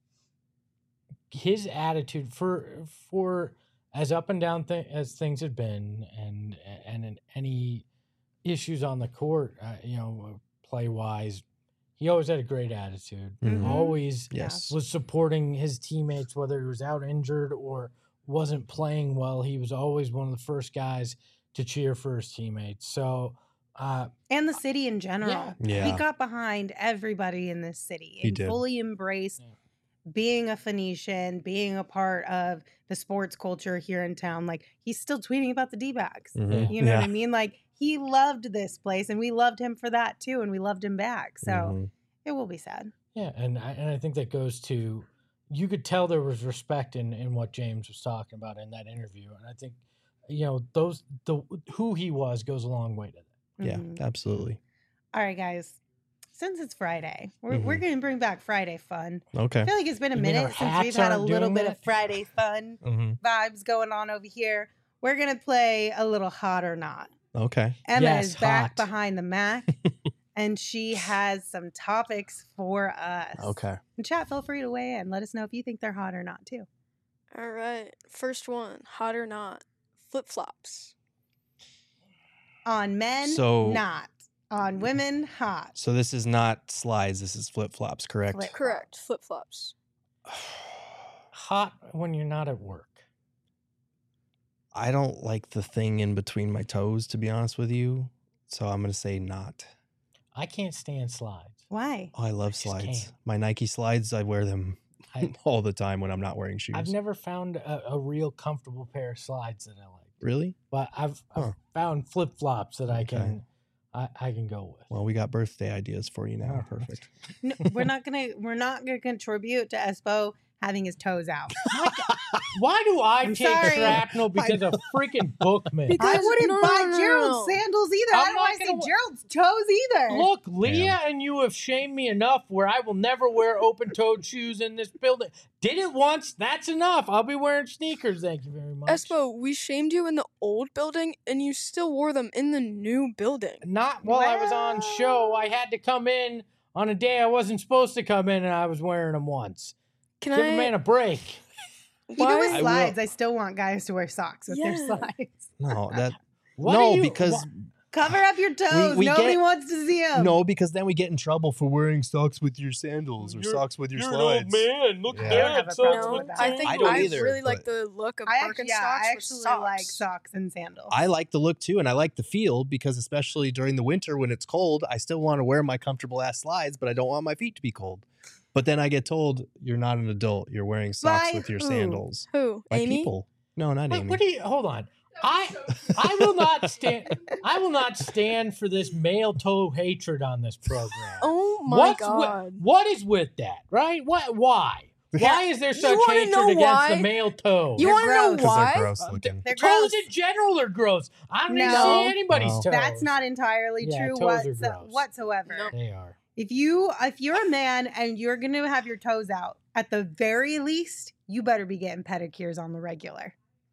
his attitude for for as up and down th- as things had been, and and in any issues on the court, uh, you know, play wise, he always had a great attitude. Mhm. Always Yes. was supporting his teammates, whether he was out injured or wasn't playing well. He was always one of the first guys to cheer for his teammates. So. Uh, And the city in general. Yeah. He got behind everybody in this city He and did. fully embraced Yeah. being a Phoenician, being a part of the sports culture here in town. Like, he's still tweeting about the D-backs. Mhm. You know Yeah. what I mean? Like, he loved this place and we loved him for that too. And we loved him back. So Mhm. it will be sad. Yeah, and I, and I think that goes to, you could tell there was respect in, in what James was talking about in that interview. And I think, you know, those the who he was goes a long way to that. Yeah, Mhm. absolutely. All right, guys. Since it's Friday, we're, we're Mhm. going to bring back Friday fun. Okay. I feel like it's been a You mean our minute since we've hats had a aren't little doing bit that? of Friday fun hmm vibes going on over here. We're going to play a little hot or not. Okay. Emma Yes, is back hot. behind the Mac, and she has some topics for us. Okay. And chat, feel free to weigh in. Let us know if you think they're hot or not, too. All right. First one, hot or not, flip flops. On men, So- not. On women, hot. So this is not slides. This is flip flops, correct? Flip- Correct. Flip flops. Hot when you're not at work. I don't like the thing in between my toes, to be honest with you. So I'm gonna say not. I can't stand slides. Why? Oh, I love just slides. can't. My Nike slides, I wear them I, all the time when I'm not wearing shoes. I've never found a, a real comfortable pair of slides that I like. Really? But I've, I've Huh. found flip flops that I Okay. can I, I can go with. Well, we got birthday ideas for you now. Oh, Perfect. No, we're not gonna. We're not gonna contribute to Espo having his toes out. Why do I I'm take sorry. shrapnel because of freaking Bookman? Because- I wouldn't no, buy no, no, Gerald's no. sandals either. I'm I don't not want to see gonna- Gerald's toes either. Look, Leah and you have shamed me enough where I will never wear open-toed shoes in this building. Did it once, that's enough. I'll be wearing sneakers, thank you very much. Espo, we shamed you in the old building, and you still wore them in the new building. Not while I was on Well- show. I had to come in on a day I wasn't supposed to come in, and I was wearing them once. Can Give I? a man a break. Even why- with I will- slides, I, still want guys to wear socks with their Yeah. slides. No, that What no, do you- because wha- Cover up your toes. we Nobody get- wants to see them. no, because then we get in trouble for wearing socks with your sandals or You're- socks with your you're slides. an old man. Look Yeah. at I don't have that. a So problem no, with that. I think I I, don't either, really like but- the look of I actually, Birkenstocks yeah, I with actually socks. like socks and sandals. I like the look too, and I like the feel because especially during the winter when it's cold, I still want to wear my comfortable ass slides, but I don't want my feet to be cold. But then I get told you're not an adult. You're wearing socks By with your who? sandals. Who? By Amy? people. No, not What, Amy. what do you? Hold on. I I will not stand. I will not stand for this male toe hatred on this program. Oh my What's god. With, what is with that? Right? What? Why? Why is there You such wanna hatred know against why? the male toe? You They're want to know gross. 'Cause why? they're gross Uh, looking. They're Toes gross. in general are gross. I don't even No. see anybody's No. toes. That's not entirely Yeah, true toes are whatso- gross. whatsoever. Nope. They are. If you if you're a man and you're gonna have your toes out, at the very least, you better be getting pedicures on the regular.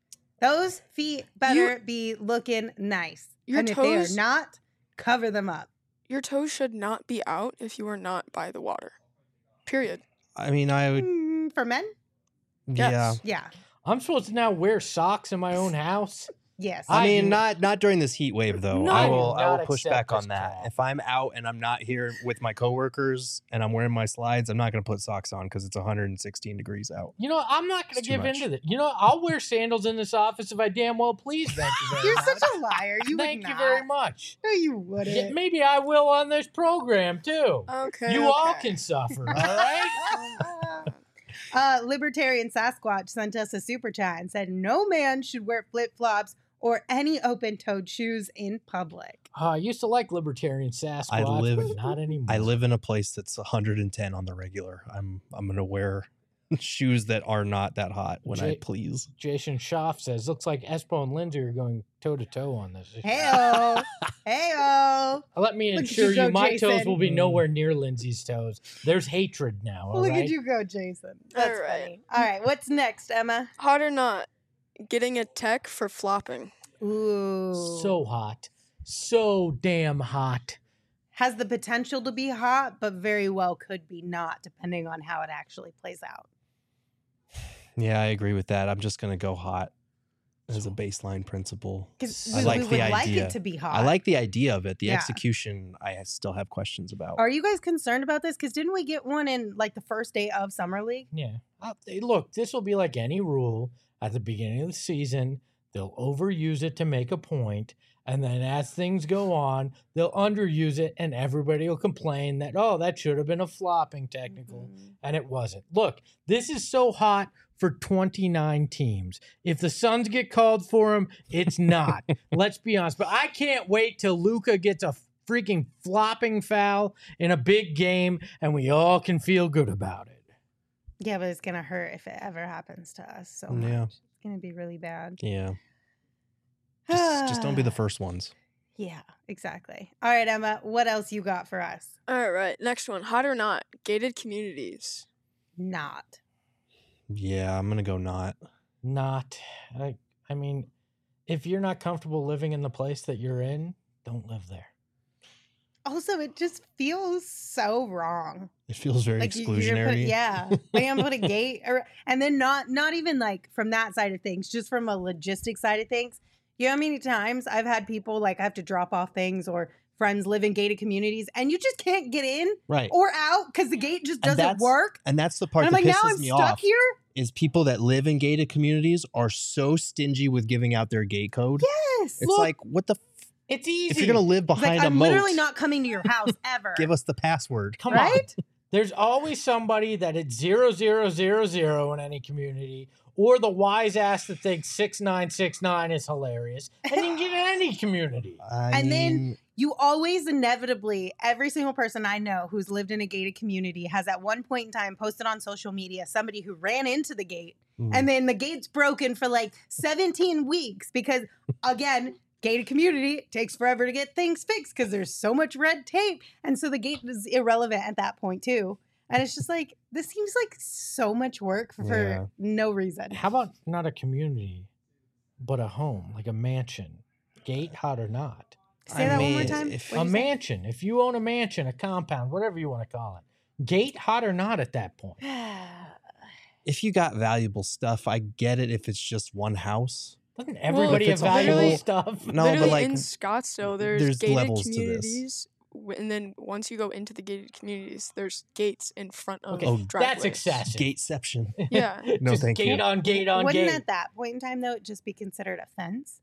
Those feet better be looking nice. Your and if they are toes- not, cover them up. Your toes should not be out if you are not by the water. Period. I mean, I would. Mm, for men? Yeah. Yes. Yeah. I'm supposed to now wear socks in my own house. Yes. I I mean, do- not not during this heat wave though. No. I I do will I not will push accept back this on that. crap. If I'm out and I'm not here with my coworkers and I'm wearing my slides, I'm not going to put socks on because it's one hundred sixteen degrees out. You know, I'm not going It's to too give much. into that. You know, I'll wear sandals in this office if I damn well please. Thank you very You're much. such a liar. You Thank would you not. very much. No, you wouldn't. Yeah, maybe I will on this program too. Okay. you all okay. can suffer, all right? Uh, Libertarian Sasquatch sent us a super chat and said, no man should wear flip flops or any open toed shoes in public. Uh, I used to like libertarian Sasquatch, I live- but not anymore. I live in a place that's one hundred ten on the regular. I'm I'm going to wear shoes that are not that hot when I Jay- please. Jason Schaff says, looks like Espo and Lindsay are going toe to toe on this. Heyo. Heyo. Let me Look at assure you go, you, my toes Jason. will be Mm. nowhere near Lindsay's toes. There's hatred now, all Look right? at you go, Jason. That's All right. funny. All right, what's next, Emma? Hot or not, getting a tech for flopping. Ooh. So hot. So damn hot. has the potential to be hot, but very well could be not, depending on how it actually plays out. Yeah, I agree with that. I'm just going to go hot as a baseline principle. Because I we, like we the would like idea. it to be hot. I like the idea of it. The Yeah. execution, I still have questions about. Are you guys concerned about this? Because didn't we get one in like the first day of Summer League? Yeah. Uh, hey, look, this will be like any rule at the beginning of the season. They'll overuse it to make a point, and then as things go on, they'll underuse it, and everybody will complain that, oh, that should have been a flopping technical, Mhm. and it wasn't. Look, this is so hot for twenty-nine teams. If the Suns get called for them, it's not. Let's be honest. But I can't wait till Luka gets a freaking flopping foul in a big game, and we all can feel good about it. Yeah, but it's gonna hurt if it ever happens to us. So much. Yeah. It's gonna be really bad. Yeah. Just, just don't be the first ones. Yeah, exactly. All right, Emma, what else you got for us? All right, next one. Hot or not, gated communities. Not. Yeah, I'm gonna go not. Not. I, I mean, if you're not comfortable living in the place that you're in, don't live there. Also, it just feels so wrong. It feels very Like you- you're exclusionary. put, yeah, like I'm put a gate, or, and then not not even like from that side of things, just from a logistic side of things. You know how many times I've had people like I have to drop off things, or friends live in gated communities, and you just can't get in Right. or out because the gate just And doesn't that's- work. And that's the part And I'm that like, pisses now I'm me stuck off. here. Is people that live in gated communities are so stingy with giving out their gate code. Yes, It's Look, like, what the? F- It's easy. if you're gonna live It's like, behind a I'm moat, literally not coming to your house ever. give us the password. Come right? on. There's always somebody that it's zero zero zero zero in any community, or the wise ass that thinks six nine six nine is hilarious, and you can get in any community. I And then- mean, You always inevitably, every single person I know who's lived in a gated community has at one point in time posted on social media somebody who ran into the gate, mm, and then the gate's broken for like seventeen weeks because, again, gated community takes forever to get things fixed because there's so much red tape. And so the gate is irrelevant at that point too. And it's just like, this seems like so much work for Yeah. no reason. How about not a community, but a home, like a mansion? Gate, hot or not? Say I that one more mean, time. if- What'd A you say? mansion. If you own a mansion, a compound, whatever you want to call it. Gate, hot or not at that point? if you got valuable stuff, I get it. If it's just one house, Doesn't everybody if have it's a valuable whole- stuff? no, Literally but like, in Scottsdale, there's, there's gated levels to this. communities, w- and then once you go into the gated communities, there's gates in front of Okay, Oh, driveways. that's excessive. gateception. Yeah. No, Just thank gate you. on gate on Wouldn't gate. at that point in time, though, it just be considered a fence?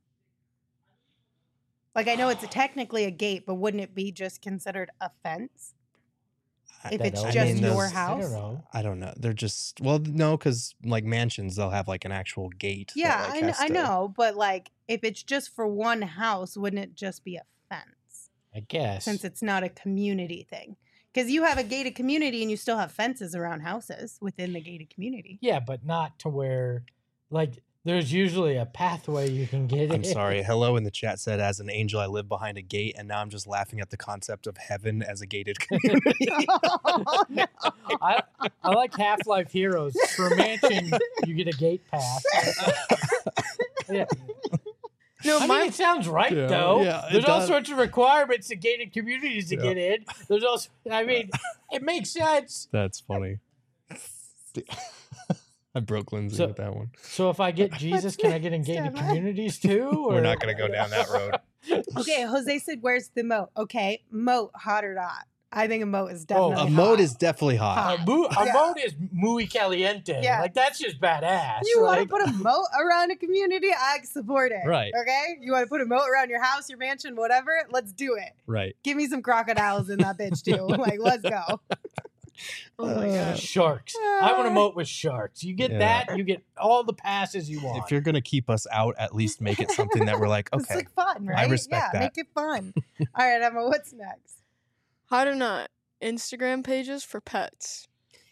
Like, I know it's technically a gate, but wouldn't it be just considered a fence? If That it's don't- just I mean, your those- house? I don't know. I don't know. They're just well, no, because like mansions, they'll have like an actual gate. that, Yeah, like, I, kn- has I to- know, but like, if it's just for one house, wouldn't it just be a fence? I guess. Since it's not a community thing. Because you have a gated community and you still have fences around houses within the gated community. Yeah, but not to where, like, there's usually a pathway you can get in. I'm sorry. Hello in the chat said, as an angel, I live behind a gate, and now I'm just laughing at the concept of heaven as a gated community. Oh, no. I, I like Half Life Heroes. For a mansion, you get a gate pass. Yeah. No, I my mean, it sounds right, Yeah, though. yeah, it There's all does. sorts of requirements to gated communities to Yeah. get in. There's also, I mean, it makes sense. That's funny. I broke Lindsay So- with that one. So if I get Jesus, can I get in next, gated Emma? communities too? We're or- not going to go down that road. Okay, Jose said, where's the moat? Okay, moat, hot or not? I think a moat is Oh, definitely A a hot. moat is definitely hot. Hot. A, mo- a Yeah. moat is muy caliente. Yeah. Like, that's just badass. You want like, to put a moat around a community? I support it. Right. Okay? You want to put a moat around your house, your mansion, whatever? Let's do it. Right. Give me some crocodiles in that bitch, too. Like, let's go. oh my Uh, gosh. sharks. I want to moat with sharks. You get Yeah. that, you get all the passes you want. If you're going to keep us out, at least make it something that we're like, It's okay. like fun, right? respect yeah, that. make it fun. All right, Emma, what's next? Hot or not, Instagram pages for pets.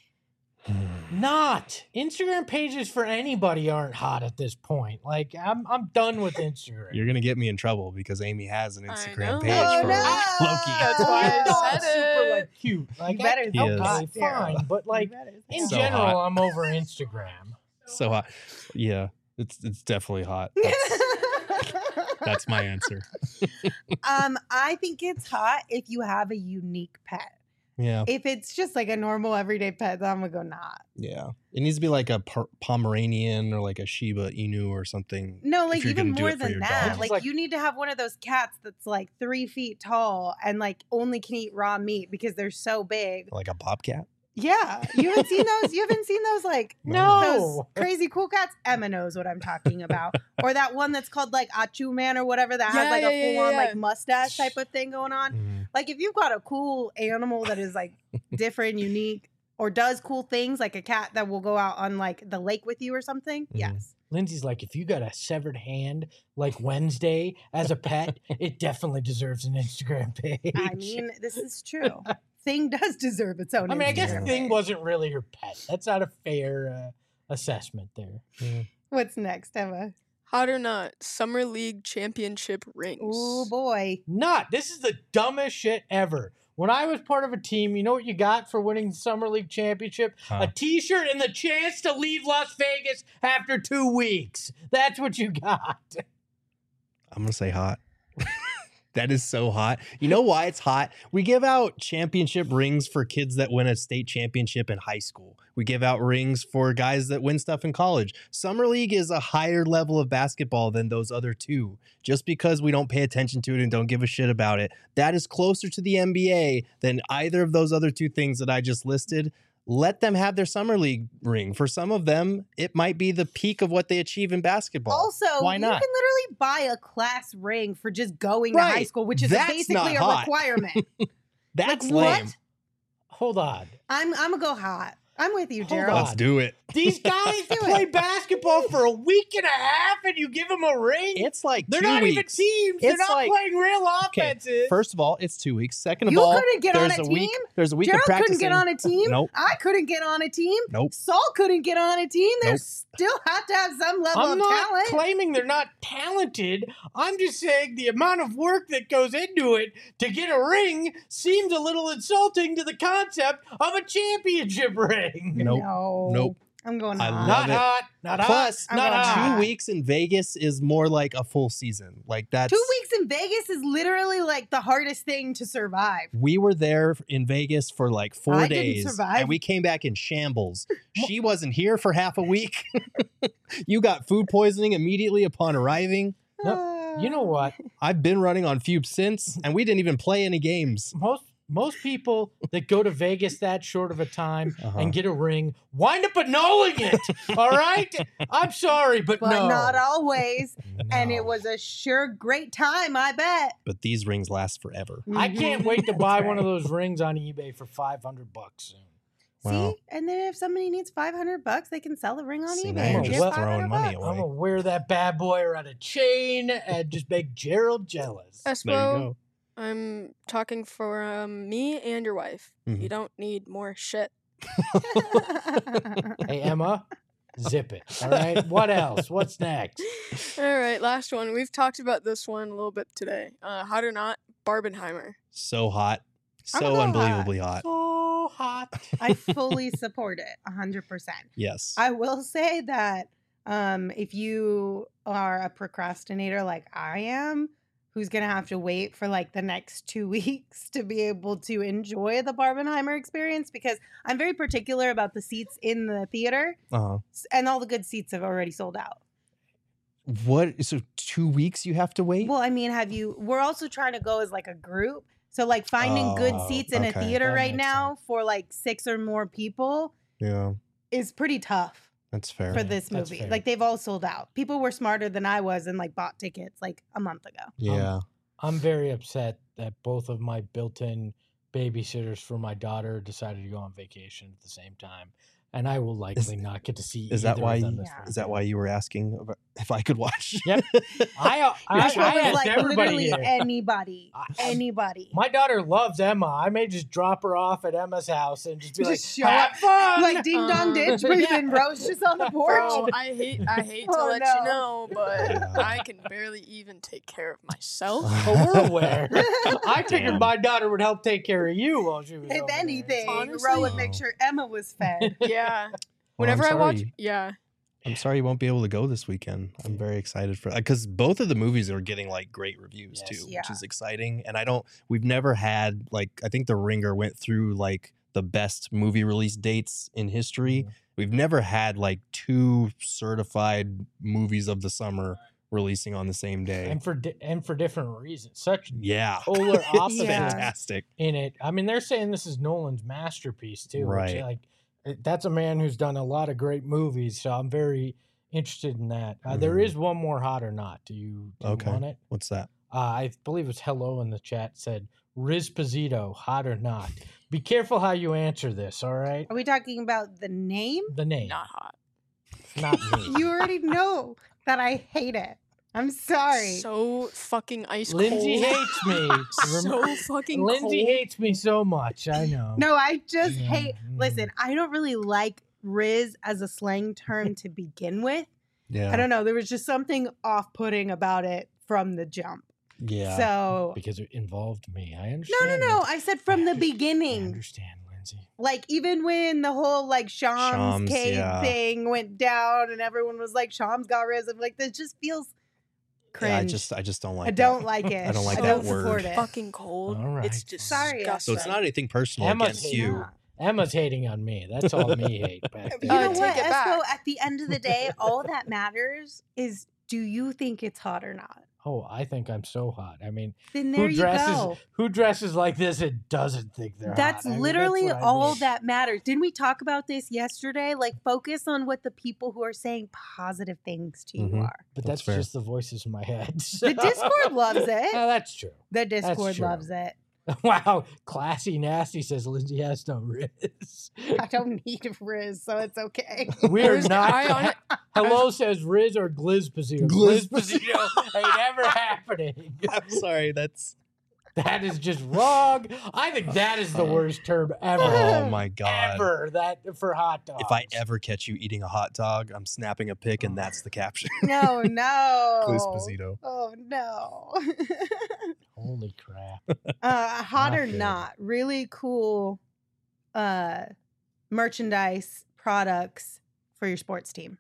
Not Instagram pages for anybody aren't hot at this point. Like I'm, I'm done with Instagram. You're going to get me in trouble because Amy has an I Instagram know. page Oh, for no. Loki. That's why I It's said super it. like cute. Like You better I, He is. okay, say it. fine, but like You better say in it. So general, hot. I'm over Instagram. So hot. Yeah, it's it's definitely hot. That's, that's my answer. um, I think it's hot if you have a unique pet. Yeah. If it's just like a normal everyday pet, then I'm gonna go not. Yeah. It needs to be like a per- Pomeranian or like a Shiba Inu or something. No, if like you're even gonna do more it for than your that. dog. Like, Like- you need to have one of those cats that's like three feet tall and like only can eat raw meat because they're so big. Like a bobcat. Yeah, you haven't seen those. You haven't seen those like those No. crazy cool cats. Emma knows what I'm talking about. Or that one that's called like Achu Man or whatever that has Yeah, like yeah, a yeah, full on yeah. like mustache type of thing going on. Mhm. Like if you've got a cool animal that is like different, unique, or does cool things, like a cat that will go out on like the lake with you or something. Mhm. Yes. Lindsay's like, if you got a severed hand like Wednesday as a pet, it definitely deserves an Instagram page. I mean, this is true. Thing does deserve its own. I mean, I guess Instagram Thing page. wasn't really her pet. That's not a fair uh, assessment there. What's next, Emma? Hot or not, Summer League Championship rings. Oh boy. Not. This is the dumbest shit ever. When I was part of a team, you know what you got for winning the Summer League Championship? Huh. A T-shirt and the chance to leave Las Vegas after two weeks. That's what you got. I'm gonna say hot. That is so hot. You know why it's hot? We give out championship rings for kids that win a state championship in high school. We give out rings for guys that win stuff in college. Summer League is a higher level of basketball than those other two. Just because we don't pay attention to it and don't give a shit about it, that is closer to the N B A than either of those other two things that I just listed. Let them have their Summer League ring. For some of them, it might be the peak of what they achieve in basketball. Also, Why you not? can literally buy a class ring for just going Right. to high school, which is That's basically not a hot. requirement. That's like, lame. what? Hold on. I'm I'm gonna go hot. I'm with you, Hold Gerald. on. Let's do it. These guys Do play it. basketball for a week and a half and you give them a ring? It's like They're two not weeks. even teams. They're It's not like- playing real Okay, offenses. first of all, it's two weeks. Second of You all, couldn't get on there's a a week. team? There's a week Gerald of practicing. couldn't get on a team. Nope. I couldn't get on a team. Nope. Saul couldn't get on a team. They Nope. still have to have some level I'm of not talent. claiming they're not talented. I'm just saying the amount of work that goes into it to get a ring seems a little insulting to the concept of a championship ring. Nope. No. Nope. I'm going I hot. love Not it. hot. Not Plus, hot. Not I'm hot. going two weeks in Vegas is more like a full season. Like that's Two weeks in Vegas is literally like the hardest thing to survive. We were there in Vegas for like four I didn't days, survive. and we came back in shambles. She wasn't here for half a week. You got food poisoning immediately upon arriving. No, you know what? I've been running on fumes since, and we didn't even play any games. Most most people that go to Vegas that short of a time Uh-huh. and get a ring wind up annulling it. All right? I'm sorry, but, But no. not always. And No. it was a sure great time, I bet. But these rings last forever. I Mhm. can't wait to That's buy right. one of those rings on eBay for five hundred bucks soon. Wow. See, and then if somebody needs five hundred bucks, they can sell the ring on See, eBay. now and you're get just five throwing hundred money bucks. away. I'm gonna wear that bad boy around a chain and just make Gerald jealous. There you Espo, go. I'm talking for um, me and your wife. Mhm. You don't need more shit. Hey Emma, zip it. All right. What else? What's next? All right, last one. We've talked about this one a little bit today. Uh, hot or not, Barbenheimer. So hot. I'm So gonna go unbelievably hot. So hot. I fully support it, one hundred percent. Yes. I will say that um, if you are a procrastinator like I am, who's going to have to wait for like the next two weeks to be able to enjoy the Barbenheimer experience, because I'm very particular about the seats in the theater, uh-huh. s- and all the good seats have already sold out. What? So two weeks you have to wait? Well, I mean, have you, we're also trying to go as like a group. So like finding good Oh, seats in a okay. theater That right makes now for like six or more people Yeah, is pretty tough that's fair. for Yeah, this that's movie. fair. Like they've all sold out. People were smarter than I was and like bought tickets like a month ago. Yeah. I'm very upset that both of my built-in babysitters for my daughter decided to go on vacation at the same time, and I will likely not get to see. is that either why of them you- this Yeah. Is that weekend. why you were asking about if I could watch? Yep. I, uh, I, Joshua I was asked like everybody literally here. anybody, I- anybody. My daughter loves Emma. I may just drop her off at Emma's house and just be Just like, show "Have up, fun!" like ding dong Um, ditch, but yeah. then Rose just on the porch. Bro, I hate I hate to Oh, let no. you know, but Yeah. I can barely even take care of myself. Oh, we're aware. I figured Damn. my daughter would help take care of you while she was. If over there. anything, Honestly- Ro would make sure Emma was fed. Yeah. Well, I'm Whenever I watch, sorry. yeah. I'm sorry you won't be able to go this weekend. I'm very excited for because both of the movies are getting like great reviews Yes. too, Yeah. which is exciting. And I don't, we've never had like I think The Ringer went through like the best movie release dates in history. Mhm. We've never had like two certified movies of the summer releasing on the same day. and for di- and for different reasons. Such yeah, polar opposites Yeah. fantastic. in it. I mean, they're saying this is Nolan's masterpiece too. Which, Right. like, it- that's a man who's done a lot of great movies. So I'm very interested in that. Uh, there Mhm. is one more hot or not. Do you, do Okay. you want it? What's that? Uh, I believe it was Hello in the chat said Riz Pizito, hot or not. Be careful how you answer this. All right, Are we talking about the name? the name, Not hot. not me. You already know that I hate it. I'm sorry. So fucking ice Lindsay cold. hates me. So fucking Lindsay cold. hates me so much. I know. No, I just Yeah, hate. mm. Listen, I don't really like Riz as a slang term to begin with. Yeah. I don't know. There was just something off-putting about it from the jump. Yeah. So Because it involved me. I no, understand. no, no. Lindsay. I said from the I understand- I beginning. understand, Lindsay. Like even when the whole like Shams, Shams, Cade yeah. thing went down and everyone was like Shams got Riz. I'm like, this just feels cringe. Yeah, I just I just don't like I that. don't like it. I don't like I that don't word. support it. Fucking cold. All right, It's just Sorry, disgusting. So it's not anything personal Emma's against hating you. on- Emma's hating on me. That's all me hate back You there. know Uh, what, take it Espo? back. At the end of the day, all that matters is do you think it's hot or not? Oh, I think I'm so hot. I mean, Then there who you dresses go. who dresses like this and doesn't think they're That's hot? I mean, literally what I all mean. that matters. Didn't we talk about this yesterday? Like, focus on what the people who are saying positive things to you Mhm. are. But That's that's, fair. just the voices in my head. The Discord loves it. Oh, that's true. The Discord true. loves it. Wow, classy nasty says Lindsay has no Riz. I don't need Riz, so it's okay. We're Riz- not. I hon- Hello says Riz or Glizpazito. Gliz- Glizpazito ain't ever happening. I'm sorry, that's That is just wrong. I think that is the worst term ever. oh my god. Ever that for hot dogs. If I ever catch you eating a hot dog, I'm snapping a pic and that's the caption. No, no. Glizpazito. Oh, no. Holy crap. uh, hot Not or good. not, really cool uh, merchandise products for your sports team.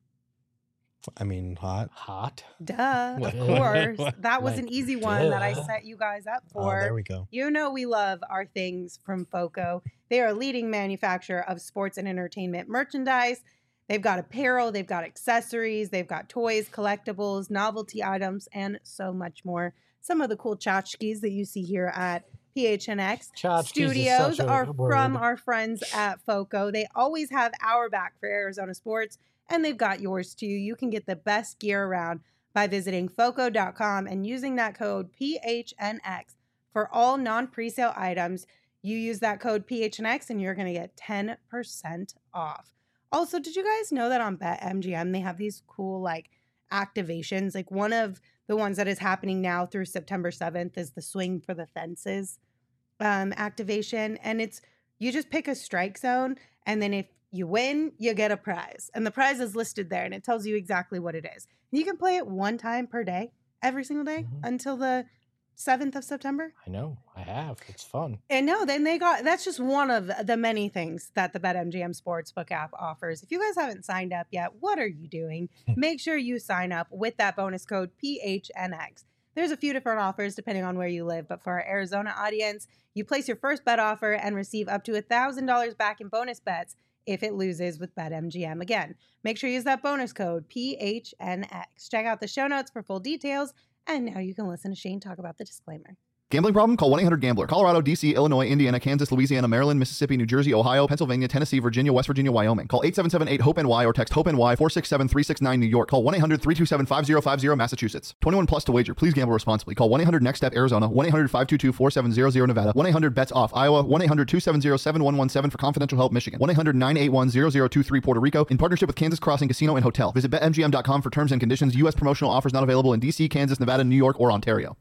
I mean, hot. Hot? Duh, What? of course. That was Like, an easy one that I duh. set you guys up Oh, for. there we go. You know we love our things from FOCO. They are a leading manufacturer of sports and entertainment merchandise. They've got apparel, they've got accessories, they've got toys, collectibles, novelty items, and so much more. Some of the cool tchotchkes that you see here at P H N X Tchotchkes is Studios such a are word. from our friends at FOCO. They always have our back for Arizona sports, and they've got yours too. You can get the best gear around by visiting foco dot com and using that code P H N X for all non-presale items. You use that code P H N X and you're going to get ten percent off. Also, did you guys know that on BetMGM they have these cool like activations? Like one of the ones that is happening now through September seventh is the Swing for the Fences um, activation. And it's, you just pick a strike zone and then if you win, you get a prize. And the prize is listed there and it tells you exactly what it is. You can play it one time per day, every single day Mhm. until the seventh of September. I know. I have. It's fun. And no, then they got, that's just one of the many things that the BetMGM Sportsbook app offers. If you guys haven't signed up yet, what are you doing? Make sure you sign up with that bonus code P H N X. There's a few different offers depending on where you live, but for our Arizona audience, you place your first bet offer and receive up to one thousand dollars back in bonus bets if it loses with BetMGM. Again, make sure you use that bonus code P H N X. Check out the show notes for full details. And now you can listen to Shane talk about the disclaimer. Gambling problem? Call one eight hundred gambler. Colorado, D C, Illinois, Indiana, Kansas, Louisiana, Maryland, Mississippi, New Jersey, Ohio, Pennsylvania, Tennessee, Virginia, West Virginia, Wyoming. Call eight seven seven eight hope N Y or text HOPE-NY four six seven three six nine New York. Call one eight hundred three two seven five zero five zero Massachusetts. twenty-one plus to wager. Please gamble responsibly. Call one eight hundred next step Arizona. one eight hundred five two two four seven zero zero Nevada. one eight hundred bets off Iowa. one eight hundred two seven zero seven one one seven for confidential help Michigan. one eight hundred nine eight one zero zero two three Puerto Rico. In partnership with Kansas Crossing Casino and Hotel. Visit bet M G M dot com for terms and conditions. U S promotional offers not available in D C, Kansas, Nevada, New York, or Ontario.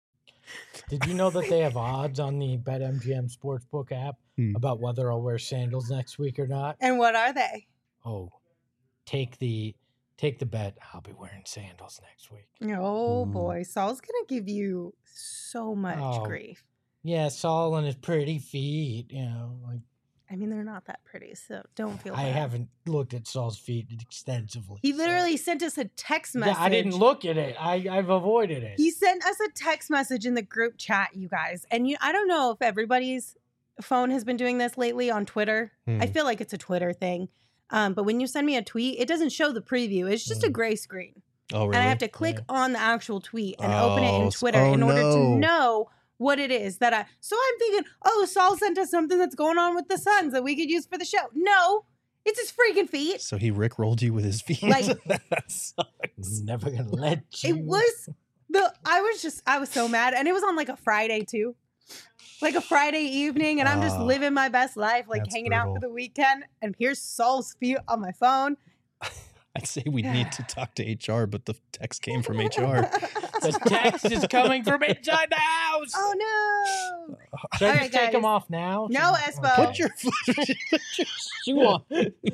Did you know that they have odds on the BetMGM Sportsbook app Hmm. about whether I'll wear sandals next week or not? And what are they? Oh, take the take the bet. I'll be wearing sandals next week. Oh Mm. boy, Saul's gonna give you so much Oh. grief. Yeah, Saul and his pretty feet. You know, like I mean, they're not that pretty, so don't feel I bad. haven't looked at Saul's feet extensively. He so- literally sent us a text Yeah, message. I didn't look at it. I I've avoided it. He sent us a text message in the group chat, you guys. And you I don't know if everybody's phone has been doing this lately on Twitter. I Hmm. feel like it's a Twitter thing. Um, but when you send me a tweet, it doesn't show the preview. It's just a Mm. gray screen. Oh, really? And I have to click Yeah. on the actual tweet and open it Oh, in s- Twitter oh, in order no. to know what it is that I. So I'm thinking, oh, Saul sent us something that's going on with the Suns that we could use for the show. No, it's his freaking feet. So he rickrolled you with his feet. Like- That sucks. Never gonna let you. It was the. I was just. I was so mad, and it was on like a Friday too, like a Friday evening, and I'm just Ah, living my best life, like that's hanging out for brutal. the weekend. And here's Saul's feet on my phone. I'd say we need to talk to H R, but the text came from H R. The text is coming from inside the house. Oh no! Should I All just right, take them guys. off now? No, Should- Espo. Put your, put your shoe on.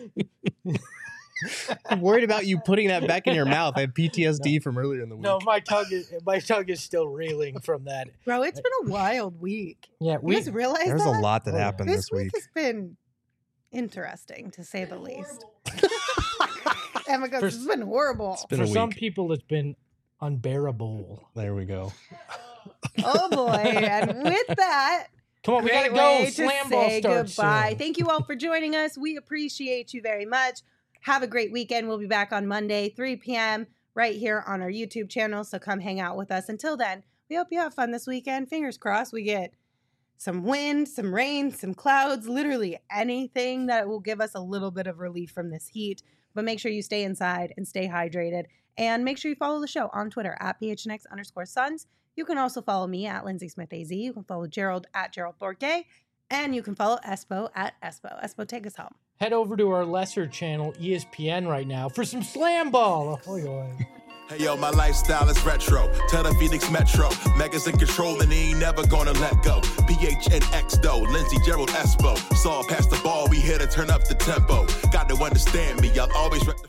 I'm worried about you putting that back in your mouth. I have P T S D from earlier in the week. No, my tongue is my tongue is still reeling from that. Bro, it's been a wild week. Yeah, You we guys realize There's that? a lot that Oh, yeah. happened This this week week. has been interesting, to say the least. Emma goes, For- this has been horrible. been for a some week. people it's been unbearable. There we go. Oh boy. And with that, Come on, we great gotta go. way to Slam ball say starts goodbye. soon. Thank you all for joining us. We appreciate you very much. Have a great weekend. We'll be back on Monday, three p.m. right here on our YouTube channel. So come hang out with us. Until then, we hope you have fun this weekend. Fingers crossed we get some wind, some rain, some clouds, literally anything that will give us a little bit of relief from this heat. But make sure you stay inside and stay hydrated. And make sure you follow the show on Twitter at P H N X underscore Suns. You can also follow me at Lindsay Smith A Z. You can follow Gerald at Gerald Bourget. And you can follow Espo at Espo. Espo, take us home. Head over to our lesser channel, E S P N, right now for some slam ball. Oh, God. Hey yo, my lifestyle is retro. Tell the Phoenix Metro. Megas in control and he ain't never gonna let go. P H N X though, Lindsey, Gerald, Espo. Saw past the ball, we here to turn up the tempo. Got to understand me, I'll always rec-